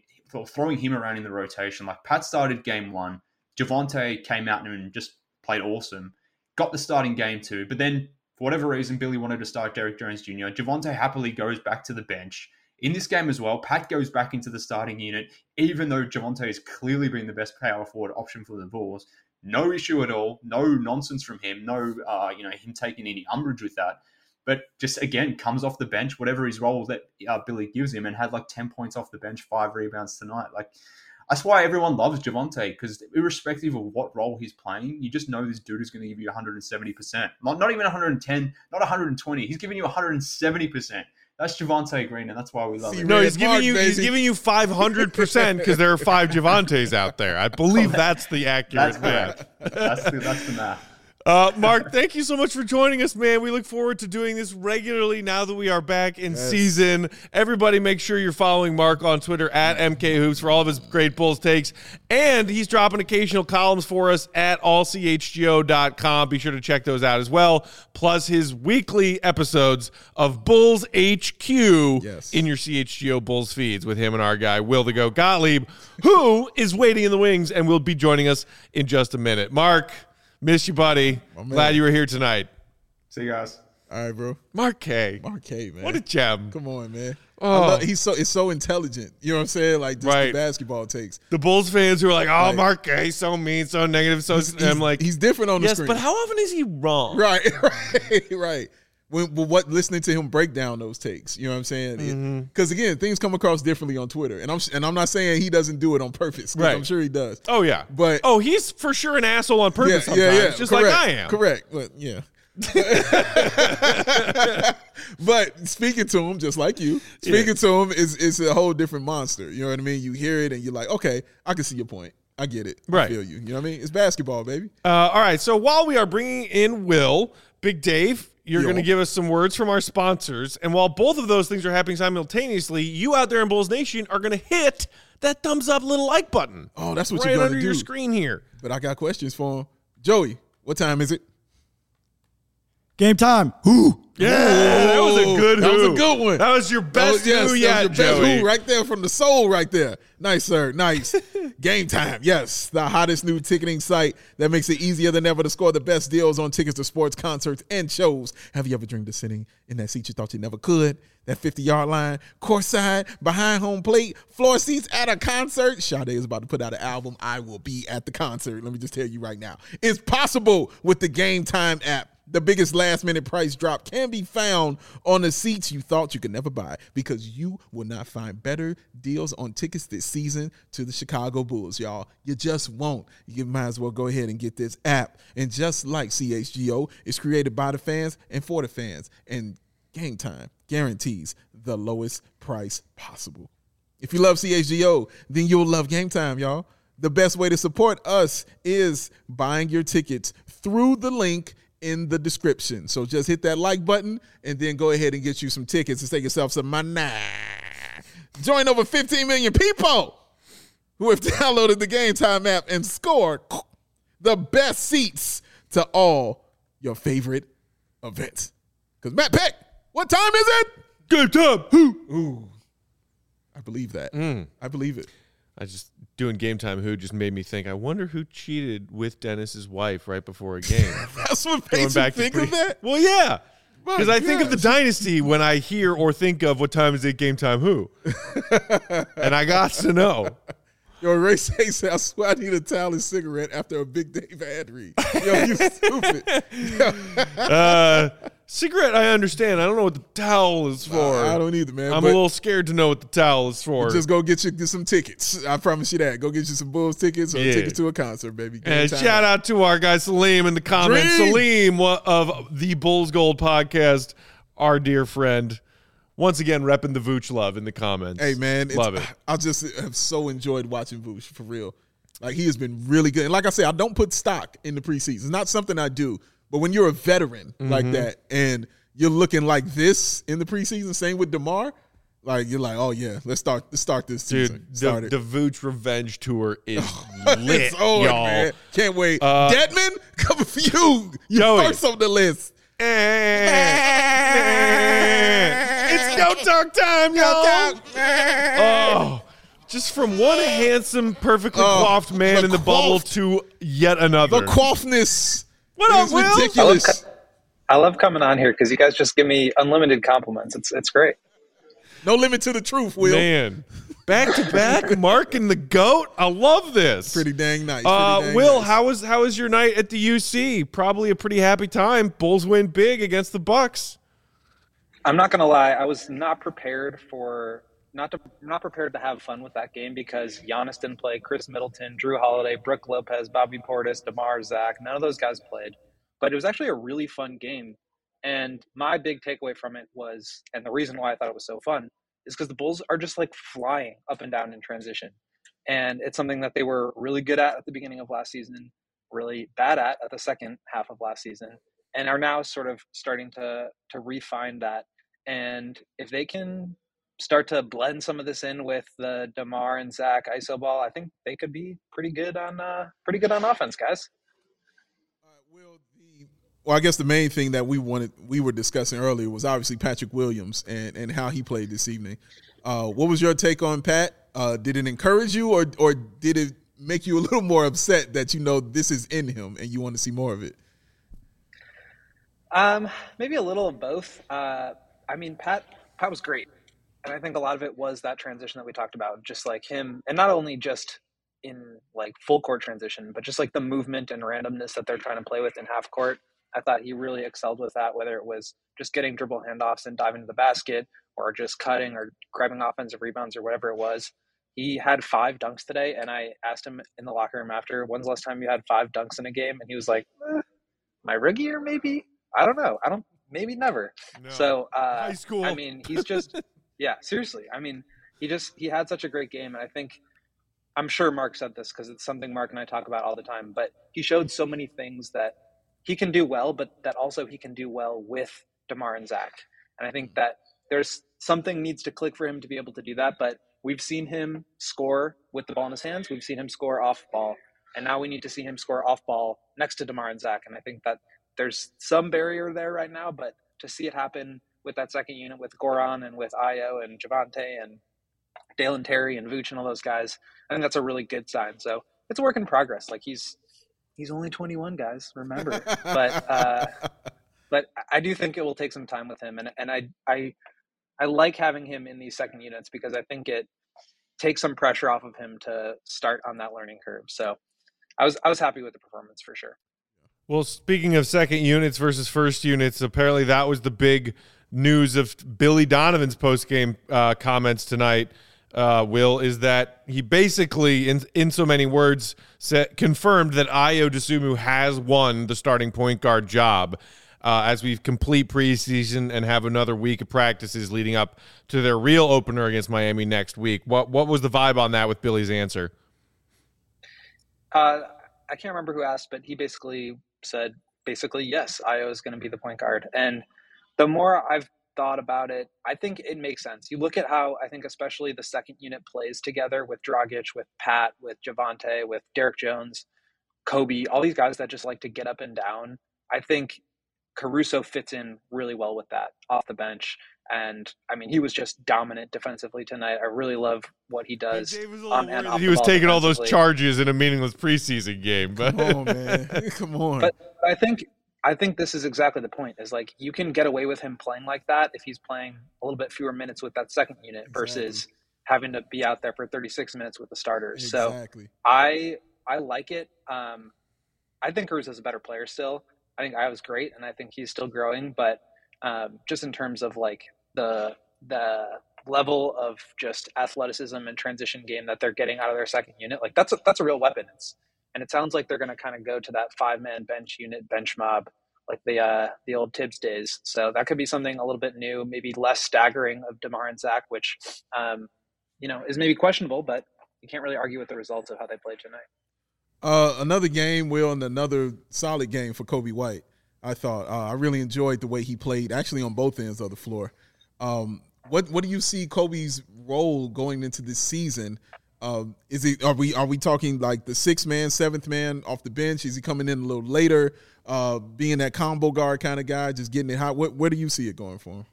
[SPEAKER 2] the rotation. Like Pat started game 1, Javonte came out and just played awesome, got the starting game 2, but then for whatever reason, Billy wanted to start Derrick Jones Jr. Javonte happily goes back to the bench. In this game as well, Pat goes back into the starting unit, even though Javonte has clearly been the best power forward option for the Bulls. No issue at all, no nonsense from him, no him taking any umbrage with that. But just, again, comes off the bench, whatever his role that Billy gives him, and had like 10 points off the bench, 5 rebounds tonight. Like, that's why everyone loves Javonte, because irrespective of what role he's playing, you just know this dude is going to give you 170%. Not even 110, not 120. He's giving you 170%. That's Javonte Green, and that's why we love him.
[SPEAKER 1] No, he's giving you 500% because there are 5 Javantes out there. I believe that's the accurate math.
[SPEAKER 2] That's the math.
[SPEAKER 1] Mark, thank you so much for joining us, man. We look forward to doing this regularly now that we are back in season. Everybody make sure you're following Mark on Twitter at MKHoops for all of his great Bulls takes. And he's dropping occasional columns for us at allchgo.com. Be sure to check those out as well. Plus his weekly episodes of Bulls HQ in your CHGO Bulls feeds with him and our guy, Will the Goat Gottlieb, who is waiting in the wings and will be joining us in just a minute. Mark, miss you, buddy. Glad you were here tonight.
[SPEAKER 2] See you guys.
[SPEAKER 3] All right, bro.
[SPEAKER 1] Mark K,
[SPEAKER 3] man.
[SPEAKER 1] What a gem.
[SPEAKER 3] Come on, man.
[SPEAKER 1] Oh.
[SPEAKER 3] It's so intelligent. You know what I'm saying? Like, just the basketball takes.
[SPEAKER 1] The Bulls fans who are like, oh, Mark K, so mean, so negative. I'm like,
[SPEAKER 3] he's different on the screen.
[SPEAKER 1] Yes, but how often is he wrong?
[SPEAKER 3] Right. Listening to him break down those takes, you know what I'm saying? Because again, things come across differently on Twitter, and I'm not saying he doesn't do it on purpose. Right. I'm sure he does.
[SPEAKER 1] Oh yeah,
[SPEAKER 3] but
[SPEAKER 1] he's for sure an asshole on purpose. Sometimes, just
[SPEAKER 3] correct,
[SPEAKER 1] like I am.
[SPEAKER 3] Correct, but yeah. But speaking to him, just like you, to him is a whole different monster. You know what I mean? You hear it and you're like, okay, I can see your point. I get it.
[SPEAKER 1] Right.
[SPEAKER 3] I feel you. You know what I mean? It's basketball, baby.
[SPEAKER 1] All right. So while we are bringing in Will, Big Dave, you're going to give us some words from our sponsors. And while both of those things are happening simultaneously, you out there in Bulls Nation are going to hit that thumbs up little like button.
[SPEAKER 3] Oh, that's what
[SPEAKER 1] right
[SPEAKER 3] you're going to do.
[SPEAKER 1] Right under your screen here.
[SPEAKER 3] But I got questions for him. Joey, what time is it?
[SPEAKER 4] Game time. Who?
[SPEAKER 1] Yeah, that was a good
[SPEAKER 3] That was a good one.
[SPEAKER 1] That was your best who yet, Joey.
[SPEAKER 3] Who right there from the soul right there. Nice, sir. Nice. Game time. Yes, the hottest new ticketing site that makes it easier than ever to score the best deals on tickets to sports, concerts, and shows. Have you ever dreamed of sitting in that seat you thought you never could? That 50-yard line, courtside, behind home plate, floor seats at a concert. Sade is about to put out an album. I will be at the concert. Let me just tell you right now. It's possible with the Game Time app. The biggest last-minute price drop can be found on the seats you thought you could never buy, because you will not find better deals on tickets this season to the Chicago Bulls, y'all. You just won't. You might as well go ahead and get this app. And just like CHGO, it's created by the fans and for the fans. And Game Time guarantees the lowest price possible. If you love CHGO, then you'll love Game Time, y'all. The best way to support us is buying your tickets through the link in the description. So just hit that like button and then go ahead and get you some tickets and save yourself some money. Join over 15 million people who have downloaded the Game Time app and scored the best seats to all your favorite events. Because Matt Peck, what time is it?
[SPEAKER 1] Game time.
[SPEAKER 3] Ooh. I believe that. I believe it.
[SPEAKER 1] I just doing Game Time Who just made me think, I wonder who cheated with Dennis's wife right before a game.
[SPEAKER 3] That's what makes you think of that?
[SPEAKER 1] Well, yeah. Because I think of the Dynasty when I hear or think of what time is it Game Time Who. And I got to know.
[SPEAKER 3] Yo, Ray says, I swear I need a towel and cigarette after a Big Dave ad read. Yo, you stupid.
[SPEAKER 1] Cigarette, I understand. I don't know what the towel is for.
[SPEAKER 3] I don't either, man.
[SPEAKER 1] I'm a little scared to know what the towel is for.
[SPEAKER 3] Just go get some tickets. I promise you that. Go get you some Bulls tickets or tickets to a concert, baby.
[SPEAKER 1] And shout out to our guy Salim in the comments.
[SPEAKER 3] Dream.
[SPEAKER 1] Salim of the Bulls Gold podcast, our dear friend. Once again, repping the Vooch love in the comments.
[SPEAKER 3] Hey, man.
[SPEAKER 1] Love it.
[SPEAKER 3] I just have so enjoyed watching Vooch, for real. Like, he has been really good. And like I said, I don't put stock in the preseason. It's not something I do. But when you're a veteran like that and you're looking like this in the preseason, same with DeMar, like, you're like, oh, yeah, let's start this season.
[SPEAKER 1] Dude, the Vooch Revenge Tour is lit,
[SPEAKER 3] it's over,
[SPEAKER 1] y'all.
[SPEAKER 3] man. Can't wait. Deadman, coming for you. You
[SPEAKER 1] Joey.
[SPEAKER 3] first on the list.
[SPEAKER 1] It's go talk time, y'all. Oh, just from one handsome, perfectly coiffed man in the bubble to yet another.
[SPEAKER 3] The coiffness.
[SPEAKER 1] What up,
[SPEAKER 3] is
[SPEAKER 1] Will?
[SPEAKER 3] ridiculous.
[SPEAKER 6] I love coming on here because you guys just give me unlimited compliments. It's great.
[SPEAKER 3] No limit to the truth, Will.
[SPEAKER 1] Man, back to back, Mark and the GOAT. I love this.
[SPEAKER 3] Pretty dang nice.
[SPEAKER 1] Will, how was your night at the UC? Probably a pretty happy time. Bulls win big against the Bucks.
[SPEAKER 6] I'm not gonna lie, I was not prepared to have fun with that game because Giannis didn't play, Chris Middleton, Drew Holiday, Brook Lopez, Bobby Portis, DeMar, Zach. None of those guys played. But it was actually a really fun game. And my big takeaway from it was, and the reason why I thought it was so fun, is because the Bulls are just like flying up and down in transition. And it's something that they were really good at the beginning of last season, really bad at the second half of last season, and are now sort of starting to refine that. And if they can start to blend some of this in with the DeMar and Zach iso ball, I think they could be pretty good on offense, guys.
[SPEAKER 3] Well, I guess the main thing that we were discussing earlier was obviously Patrick Williams and how he played this evening. What was your take on Pat? Did it encourage you, or did it make you a little more upset that you know this is in him and you want to see more of it?
[SPEAKER 6] Maybe a little of both. I mean, Pat was great. And I think a lot of it was that transition that we talked about, just like him, and not only just in like full court transition, but just like the movement and randomness that they're trying to play with in half court. I thought he really excelled with that, whether it was just getting dribble handoffs and diving to the basket or just cutting or grabbing offensive rebounds or whatever it was. He had 5 dunks today, and I asked him in the locker room after, when's the last time you had 5 dunks in a game? And he was like, my rookie year, maybe? I don't know. Maybe never. No. So,
[SPEAKER 1] high school.
[SPEAKER 6] I mean, he's just, yeah, seriously. I mean, he had such a great game. And I think, I'm sure Mark said this because it's something Mark and I talk about all the time, but he showed so many things that he can do well, but that also he can do well with DeMar and Zach. And I think that there's something needs to click for him to be able to do that. But we've seen him score with the ball in his hands. We've seen him score off ball. And now we need to see him score off ball next to DeMar and Zach. And I think that there's some barrier there right now, but to see it happen with that second unit with Goran and with Ayo and Javante and Dalen Terry and Vooch and all those guys, I think that's a really good sign. So it's a work in progress. Like he's only 21, guys, remember. But I do think it will take some time with him. And I like having him in these second units because I think it takes some pressure off of him to start on that learning curve. So I was happy with the performance for sure.
[SPEAKER 1] Well, speaking of second units versus first units, apparently that was the big news of Billy Donovan's post-game comments tonight, Will, is that he basically, in so many words, confirmed that Ayo Dosunmu has won the starting point guard job as we complete preseason and have another week of practices leading up to their real opener against Miami next week. What was the vibe on that with Billy's answer?
[SPEAKER 6] I can't remember who asked, but he basically said, yes, Ayo is going to be the point guard. And the more I've thought about it, I think it makes sense. You look at how I think especially the second unit plays together with Dragic, with Pat, with Javonte, with Derek Jones, Kobe, all these guys that just like to get up and down. I think Caruso fits in really well with that off the bench. And I mean, he was just dominant defensively tonight. I really love what he does.
[SPEAKER 1] He was taking all those charges in a meaningless preseason game. But.
[SPEAKER 3] Come on, man. Come on.
[SPEAKER 6] But I think this is exactly the point, is like you can get away with him playing like that if he's playing a little bit fewer minutes with that second unit versus having to be out there for 36 minutes with the starters.
[SPEAKER 3] Exactly.
[SPEAKER 6] So I like it. I think Caruso's a better player still. I think Ayo's great, and I think he's still growing. But just in terms of like the level of just athleticism and transition game that they're getting out of their second unit, like that's a real weapon. And it sounds like they're going to kind of go to that 5-man bench unit, bench mob, like the old Tibbs days. So that could be something a little bit new, maybe less staggering of DeMar and Zach, which is maybe questionable, but you can't really argue with the results of how they played tonight.
[SPEAKER 3] Another game, Will, and another solid game for Coby White. I thought I really enjoyed the way he played, actually on both ends of the floor. What do you see Kobe's role going into this season? Are we talking like the 6th man, 7th man off the bench? Is he coming in a little later, being that combo guard kind of guy, just getting it hot? Where do you see it going for him?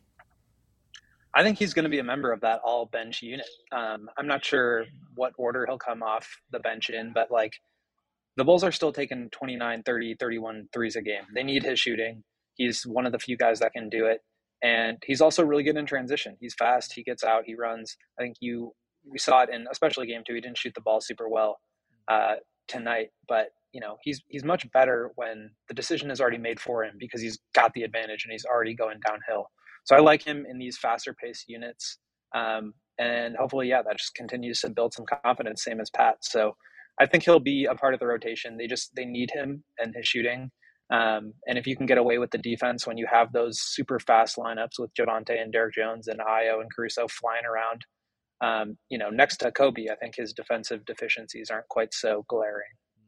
[SPEAKER 6] I think he's going to be a member of that all bench unit. I'm not sure what order he'll come off the bench in, but like the Bulls are still taking 29, 30, 31 threes a game. They need his shooting. He's one of the few guys that can do it. And he's also really good in transition. He's fast. He gets out. He runs. I think we saw it in especially game 2. He didn't shoot the ball super well tonight, but he's much better when the decision is already made for him because he's got the advantage and he's already going downhill. So I like him in these faster paced units. And hopefully, that just continues to build some confidence, same as Pat. So I think he'll be a part of the rotation. They need him and his shooting. And if you can get away with the defense when you have those super fast lineups with Javonte and Derek Jones and Ayo and Caruso flying around, next to Kobe, I think his defensive deficiencies aren't quite so glaring.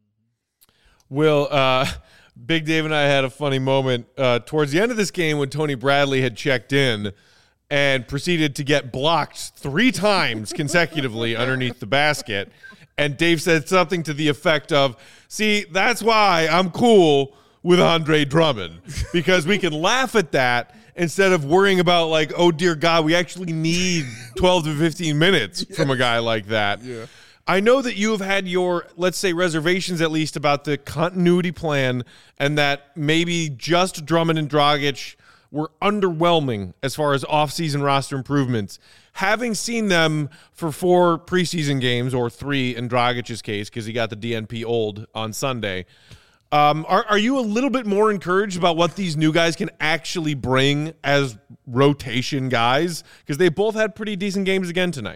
[SPEAKER 1] Will, Big Dave and I had a funny moment towards the end of this game when Tony Bradley had checked in and proceeded to get blocked 3 times consecutively underneath the basket. And Dave said something to the effect of, see, that's why I'm cool with Andre Drummond, because we can laugh at that instead of worrying about like, oh, dear God, we actually need 12 to 15 minutes from a guy like that.
[SPEAKER 3] Yeah.
[SPEAKER 1] I know that you have had your, let's say, reservations at least about the continuity plan and that maybe just Drummond and Dragic were underwhelming as far as offseason roster improvements. Having seen them for 4 preseason games, or 3 in Dragic's case because he got the DNP old on Sunday, are you a little bit more encouraged about what these new guys can actually bring as rotation guys? Because they both had pretty decent games again tonight.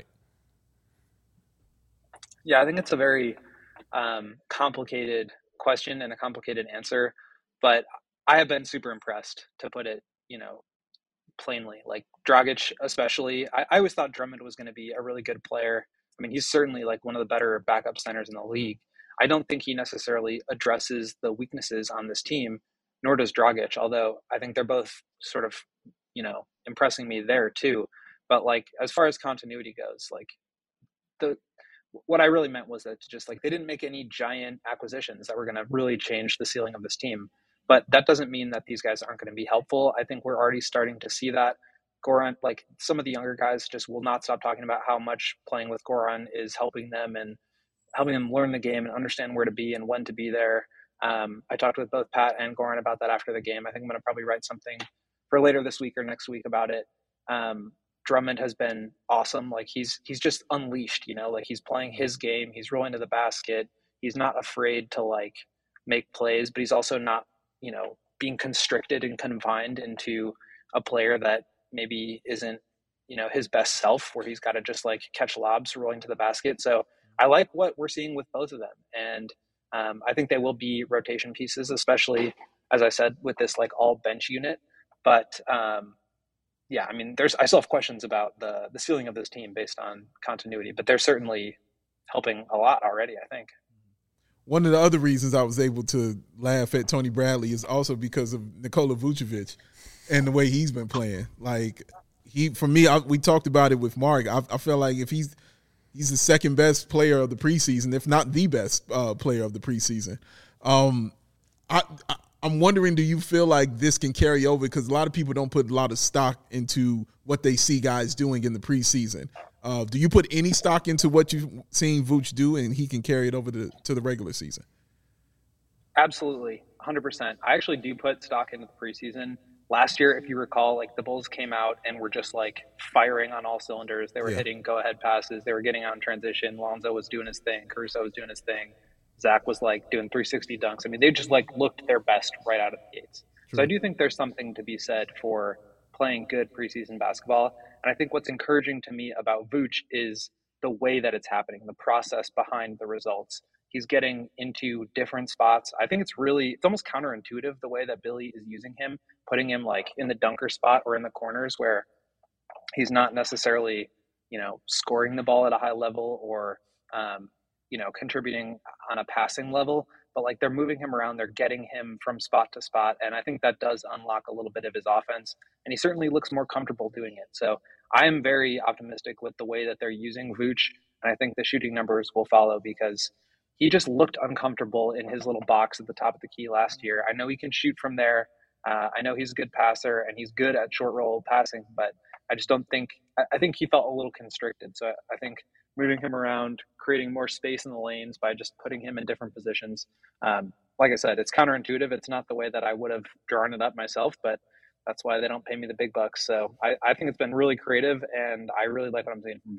[SPEAKER 6] Yeah, I think it's a very complicated question and a complicated answer, but I have been super impressed, to put it, plainly. Like Dragic especially, I always thought Drummond was going to be a really good player. I mean, he's certainly like one of the better backup centers in the league. I don't think he necessarily addresses the weaknesses on this team, nor does Dragic, although I think they're both sort of, impressing me there too. But like, as far as continuity goes, like what I really meant was that just like they didn't make any giant acquisitions that were going to really change the ceiling of this team. But that doesn't mean that these guys aren't going to be helpful. I think we're already starting to see that. Goran, like some of the younger guys just will not stop talking about how much playing with Goran is helping them and helping them learn the game and understand where to be and when to be there. I talked with both Pat and Goran about that after the game. I think I'm going to probably write something for later this week or next week about it. Drummond has been awesome. Like he's just unleashed, like he's playing his game. He's rolling to the basket. He's not afraid to like make plays, but he's also not being constricted and confined into a player that maybe isn't, his best self, where he's got to just like catch lobs rolling to the basket. So I like what we're seeing with both of them. And I think they will be rotation pieces, especially, as I said, with this like all bench unit. But yeah, I mean, I still have questions about the ceiling of this team based on continuity, but they're certainly helping a lot already, I think.
[SPEAKER 3] One of the other reasons I was able to laugh at Tony Bradley is also because of Nikola Vucevic and the way he's been playing. Like, for me, we talked about it with Mark. I feel like if he's the second best player of the preseason, if not the best player of the preseason. I'm wondering, do you feel like this can carry over? Because a lot of people don't put a lot of stock into what they see guys doing in the preseason. Do you put any stock into what you've seen Vooch do, and he can carry it over to the regular season?
[SPEAKER 6] Absolutely, 100%. I actually do put stock into the preseason. Last year, if you recall, like the Bulls came out and were just like firing on all cylinders. They were hitting go-ahead passes. They were getting out in transition. Lonzo was doing his thing. Caruso was doing his thing. Zach was like doing 360 dunks. I mean, they just like looked their best right out of the gates. True. So I do think there's something to be said for playing good preseason basketball. And I think what's encouraging to me about Vooch is the way that it's happening, the process behind the results. He's getting into different spots. I think it's almost counterintuitive the way that Billy is using him, putting him like in the dunker spot or in the corners where he's not necessarily, scoring the ball at a high level or, contributing on a passing level, but like they're moving him around, they're getting him from spot to spot. And I think that does unlock a little bit of his offense. And he certainly looks more comfortable doing it. So I am very optimistic with the way that they're using Vooch. And I think the shooting numbers will follow because he just looked uncomfortable in his little box at the top of the key last year. I know he can shoot from there. I know he's a good passer and he's good at short roll passing, but I just don't think, I think he felt a little constricted. So I think moving him around, creating more space in the lanes by just putting him in different positions. Like I said, it's counterintuitive. It's not the way that I would have drawn it up myself, but that's why they don't pay me the big bucks. So I think it's been really creative and I really like what I'm seeing from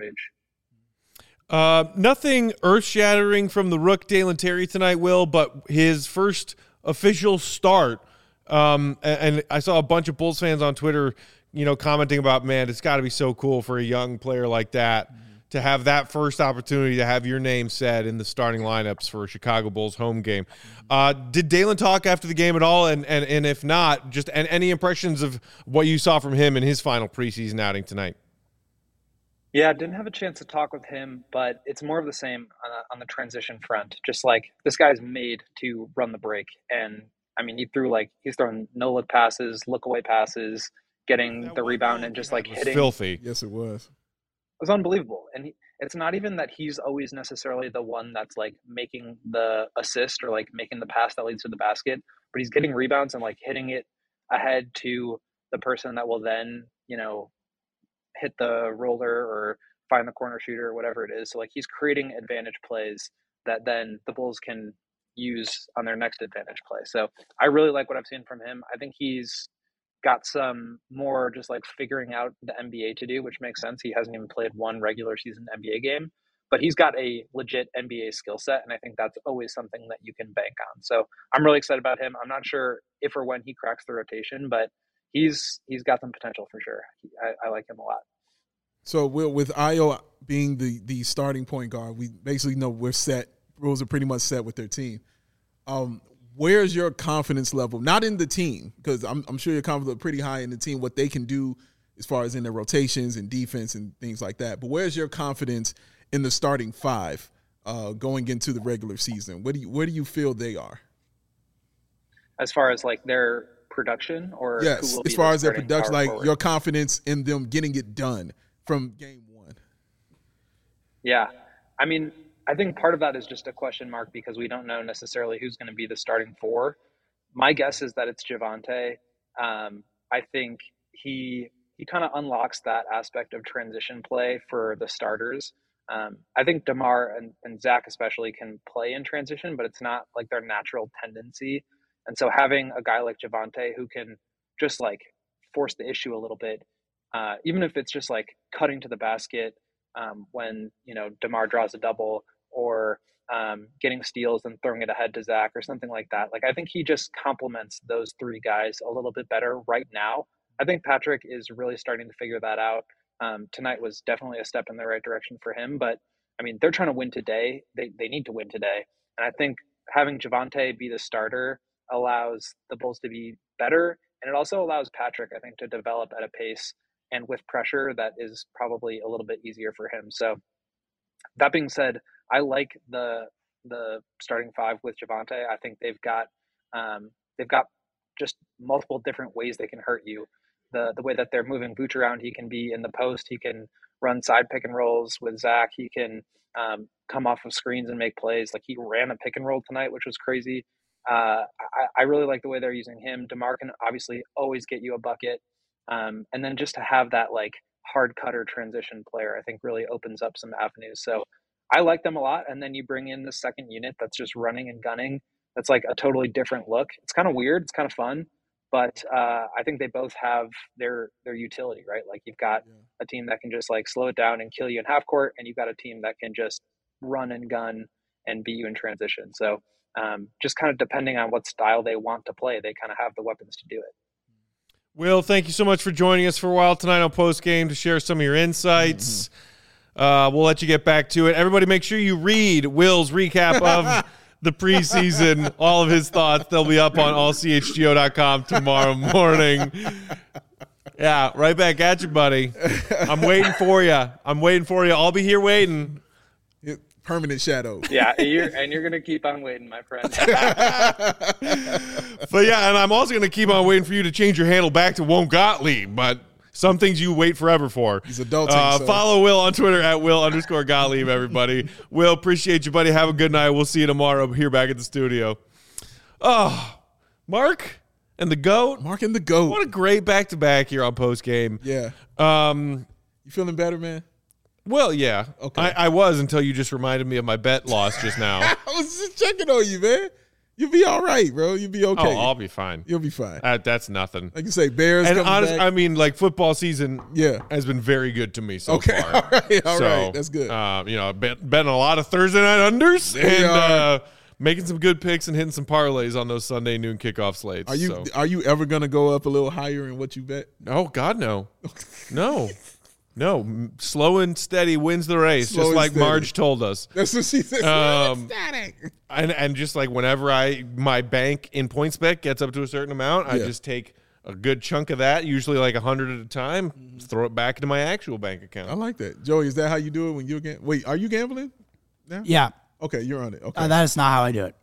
[SPEAKER 6] Vooch.
[SPEAKER 1] Nothing earth-shattering from the Rook Dalen Terry tonight, Will, but his first official start. And I saw a bunch of Bulls fans on Twitter, commenting about, man, it's got to be so cool for a young player like that to have that first opportunity to have your name said in the starting lineups for a Chicago Bulls home game. Did Dalen talk after the game at all? And if not, just any impressions of what you saw from him in his final preseason outing tonight?
[SPEAKER 6] Yeah, didn't have a chance to talk with him, but it's more of the same on the transition front. Just like this guy's made to run the break. And I mean, he's throwing no-look passes, look-away passes, getting the rebound and just like hitting.
[SPEAKER 1] Filthy.
[SPEAKER 3] Yes, it was.
[SPEAKER 6] It was unbelievable. And it's not even that he's always necessarily the one that's like making the assist or like making the pass that leads to the basket, but he's getting rebounds and like hitting it ahead to the person that will then, hit the roller or find the corner shooter or whatever it is. So like he's creating advantage plays that then the Bulls can use on their next advantage play. So I really like what I've seen from him. I think he's got some more just like figuring out the NBA to do, which makes sense. He hasn't even played one regular season NBA game, but he's got a legit NBA skill set. And I think that's always something that you can bank on. So I'm really excited about him. I'm not sure if or when he cracks the rotation, but he's got some potential for sure. I like him a lot.
[SPEAKER 3] So with Ayo being the starting point guard, we basically know we're set. Bulls are pretty much set with their team. Where's your confidence level? Not in the team, because I'm sure your confidence is pretty high in the team, what they can do as far as in their rotations and defense and things like that. But where's your confidence in the starting five going into the regular season? Where do you feel they are?
[SPEAKER 6] As far as like their production, or
[SPEAKER 3] yes, as far as their production, like forward? Your confidence in them getting it done from game one.
[SPEAKER 6] Yeah, I mean, I think part of that is just a question mark because we don't know necessarily who's going to be the starting four. My guess is that it's Javonte. I think he kind of unlocks that aspect of transition play for the starters. I think DeMar and Zach especially can play in transition, but it's not like their natural tendency. And so having a guy like Javonte who can just like force the issue a little bit, even if it's just like cutting to the basket when, DeMar draws a double, or getting steals and throwing it ahead to Zach or something like that. Like, I think he just complements those three guys a little bit better right now. I think Patrick is really starting to figure that out. Tonight was definitely a step in the right direction for him, but I mean, they're trying to win today. They need to win today. And I think having Javonte be the starter allows the Bulls to be better. And it also allows Patrick, I think, to develop at a pace and with pressure that is probably a little bit easier for him. So that being said, I like the starting five with Javonte. I think they've got just multiple different ways they can hurt you. The way that they're moving Vooch around, he can be in the post, he can run side pick and rolls with Zach, he can come off of screens and make plays. Like, he ran a pick and roll tonight, which was crazy. I really like the way they're using him. DeMar can obviously always get you a bucket. And then just to have that like hard cutter transition player, I think really opens up some avenues. So I like them a lot. And then you bring in the second unit that's just running and gunning. That's like a totally different look. It's kind of weird. It's kind of fun. But I think they both have their utility, right? Like, you've got a team that can just like slow it down and kill you in half court, and you've got a team that can just run and gun and beat you in transition. So just kind of depending on what style they want to play, they kind of have the weapons to do it.
[SPEAKER 1] Will, thank you so much for joining us for a while tonight on Post Game to share some of your insights. We'll let you get back to it. Everybody, make sure you read Will's recap of the preseason, all of his thoughts. They'll be up on allchgo.com tomorrow morning. Yeah, right back at you, buddy. I'm waiting for you. I'll be here waiting.
[SPEAKER 3] Permanent shadow.
[SPEAKER 6] Yeah, you're going to keep on waiting, my friend.
[SPEAKER 1] But yeah, and I'm also going to keep on waiting for you to change your handle back to Won't Gottlieb, but some things you wait forever for.
[SPEAKER 3] He's adulting.
[SPEAKER 1] Follow Will on Twitter at Will_Gottlieb, everybody. Will, appreciate you, buddy. Have a good night. We'll see you tomorrow here back at the studio. Oh, Mark and the GOAT.
[SPEAKER 3] Mark and the GOAT.
[SPEAKER 1] What a great back-to-back here on Post Game.
[SPEAKER 3] Yeah. You feeling better, man?
[SPEAKER 1] Well, yeah.
[SPEAKER 3] Okay.
[SPEAKER 1] I was until you just reminded me of my bet loss just now.
[SPEAKER 3] I was just checking on you, man. You'll be all right, bro. You'll be okay.
[SPEAKER 1] Oh, I'll be fine.
[SPEAKER 3] You'll be fine.
[SPEAKER 1] That's nothing.
[SPEAKER 3] Like you say, Bears
[SPEAKER 1] and
[SPEAKER 3] coming
[SPEAKER 1] honestly,
[SPEAKER 3] back.
[SPEAKER 1] I mean, like, football season
[SPEAKER 3] Yeah.
[SPEAKER 1] has been very good to me so far.
[SPEAKER 3] All right. That's good.
[SPEAKER 1] Betting a lot of Thursday night unders
[SPEAKER 3] There you
[SPEAKER 1] and making some good picks and hitting some parlays on those Sunday noon kickoff slates.
[SPEAKER 3] Are you ever going to go up a little higher in what you bet?
[SPEAKER 1] Oh, God, no. No, slow and steady wins the race, just like Marge told us.
[SPEAKER 3] That's what she said.
[SPEAKER 1] And just like whenever my bank in PointsBet gets up to a certain amount, I just take a good chunk of that, usually like 100 at a time, throw it back into my actual bank account.
[SPEAKER 3] I like that. Joey, is that how you do it when you're gambling? Wait, are you gambling now?
[SPEAKER 4] Yeah.
[SPEAKER 3] Okay, you're on it. Okay.
[SPEAKER 4] That is not how I do it.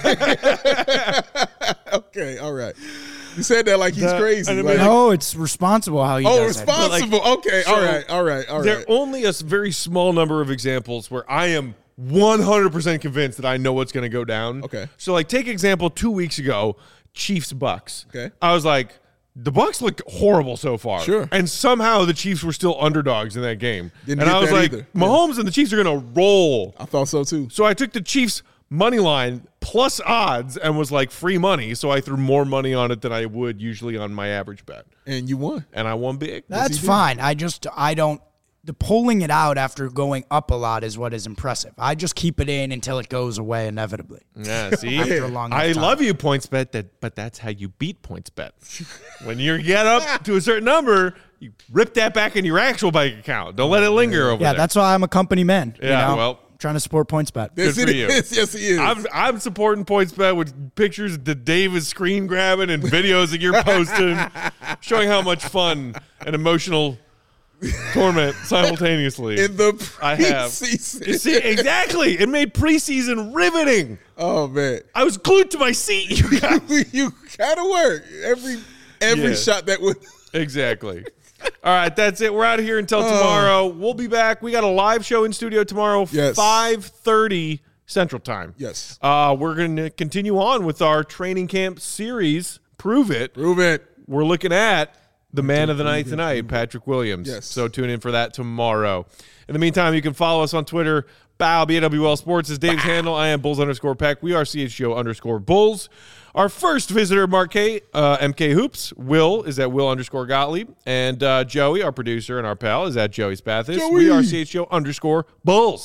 [SPEAKER 3] Okay, all right. You said that like he's crazy.
[SPEAKER 4] No, it's responsible how you do it.
[SPEAKER 3] Oh, responsible. Okay, all right.
[SPEAKER 1] There are only a very small number of examples where I am 100% convinced that I know what's going to go down.
[SPEAKER 3] Okay.
[SPEAKER 1] So, like, take example 2 weeks ago, Chiefs-Bucks.
[SPEAKER 3] Okay.
[SPEAKER 1] I was like, the Bucks look horrible so far.
[SPEAKER 3] Sure.
[SPEAKER 1] And somehow the Chiefs were still underdogs in that game.
[SPEAKER 3] Didn't
[SPEAKER 1] and
[SPEAKER 3] get
[SPEAKER 1] I was
[SPEAKER 3] that
[SPEAKER 1] like,
[SPEAKER 3] either.
[SPEAKER 1] Mahomes and the Chiefs are going to roll.
[SPEAKER 3] I thought so too.
[SPEAKER 1] So I took the Chiefs money line plus odds and was like free money. So I threw more money on it than I would usually on my average bet.
[SPEAKER 3] And you won.
[SPEAKER 1] And I won big.
[SPEAKER 4] That's fine. The pulling it out after going up a lot is what is impressive. I just keep it in until it goes away inevitably.
[SPEAKER 1] Yeah, see?
[SPEAKER 4] After a long
[SPEAKER 1] I
[SPEAKER 4] time.
[SPEAKER 1] love you, PointsBet, but that's how you beat PointsBet. When you get up to a certain number, you rip that back in your actual bank account. Don't let it linger over there.
[SPEAKER 4] Yeah, that's why I'm a company man.
[SPEAKER 1] Yeah, well.
[SPEAKER 4] Trying to support PointsBet.
[SPEAKER 3] Yes,
[SPEAKER 1] Good for you.
[SPEAKER 3] Yes, he is.
[SPEAKER 1] I'm supporting PointsBet with pictures that Dave is screen grabbing and videos that you're posting, showing how much fun and emotional torment simultaneously
[SPEAKER 3] in the
[SPEAKER 1] I have.
[SPEAKER 3] preseason.
[SPEAKER 1] See, exactly. It made preseason riveting.
[SPEAKER 3] Oh man,
[SPEAKER 1] I was glued to my seat. You guys.
[SPEAKER 3] you gotta work every shot that would.
[SPEAKER 1] Exactly. All right, that's it. We're out of here until tomorrow. We'll be back. We got a live show in studio tomorrow,
[SPEAKER 3] Yes.
[SPEAKER 1] 5:30 Central Time.
[SPEAKER 3] Yes.
[SPEAKER 1] We're going to continue on with our training camp series, Prove It.
[SPEAKER 3] Prove it.
[SPEAKER 1] We're looking at the man of the night tonight, Patrick Williams.
[SPEAKER 3] Yes.
[SPEAKER 1] So tune in for that tomorrow. In the meantime, you can follow us on Twitter. BAWL, BAWL Sports is Dave's handle. I am Bulls_Peck. We are CHGO_Bulls. Our first visitor, Mark K, MK Hoops. Will is at Will_Gottlieb. And Joey, our producer and our pal, is at Joey Spathis.
[SPEAKER 3] Joey.
[SPEAKER 1] We are CHGO_Bulls.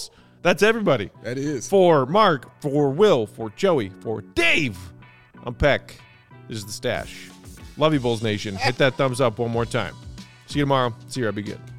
[SPEAKER 1] That's everybody.
[SPEAKER 3] That is.
[SPEAKER 1] For Mark, for Will, for Joey, for Dave, I'm Peck. This is The Stash. Love you, Bulls Nation. Hit that thumbs up one more time. See you tomorrow. See you, be good.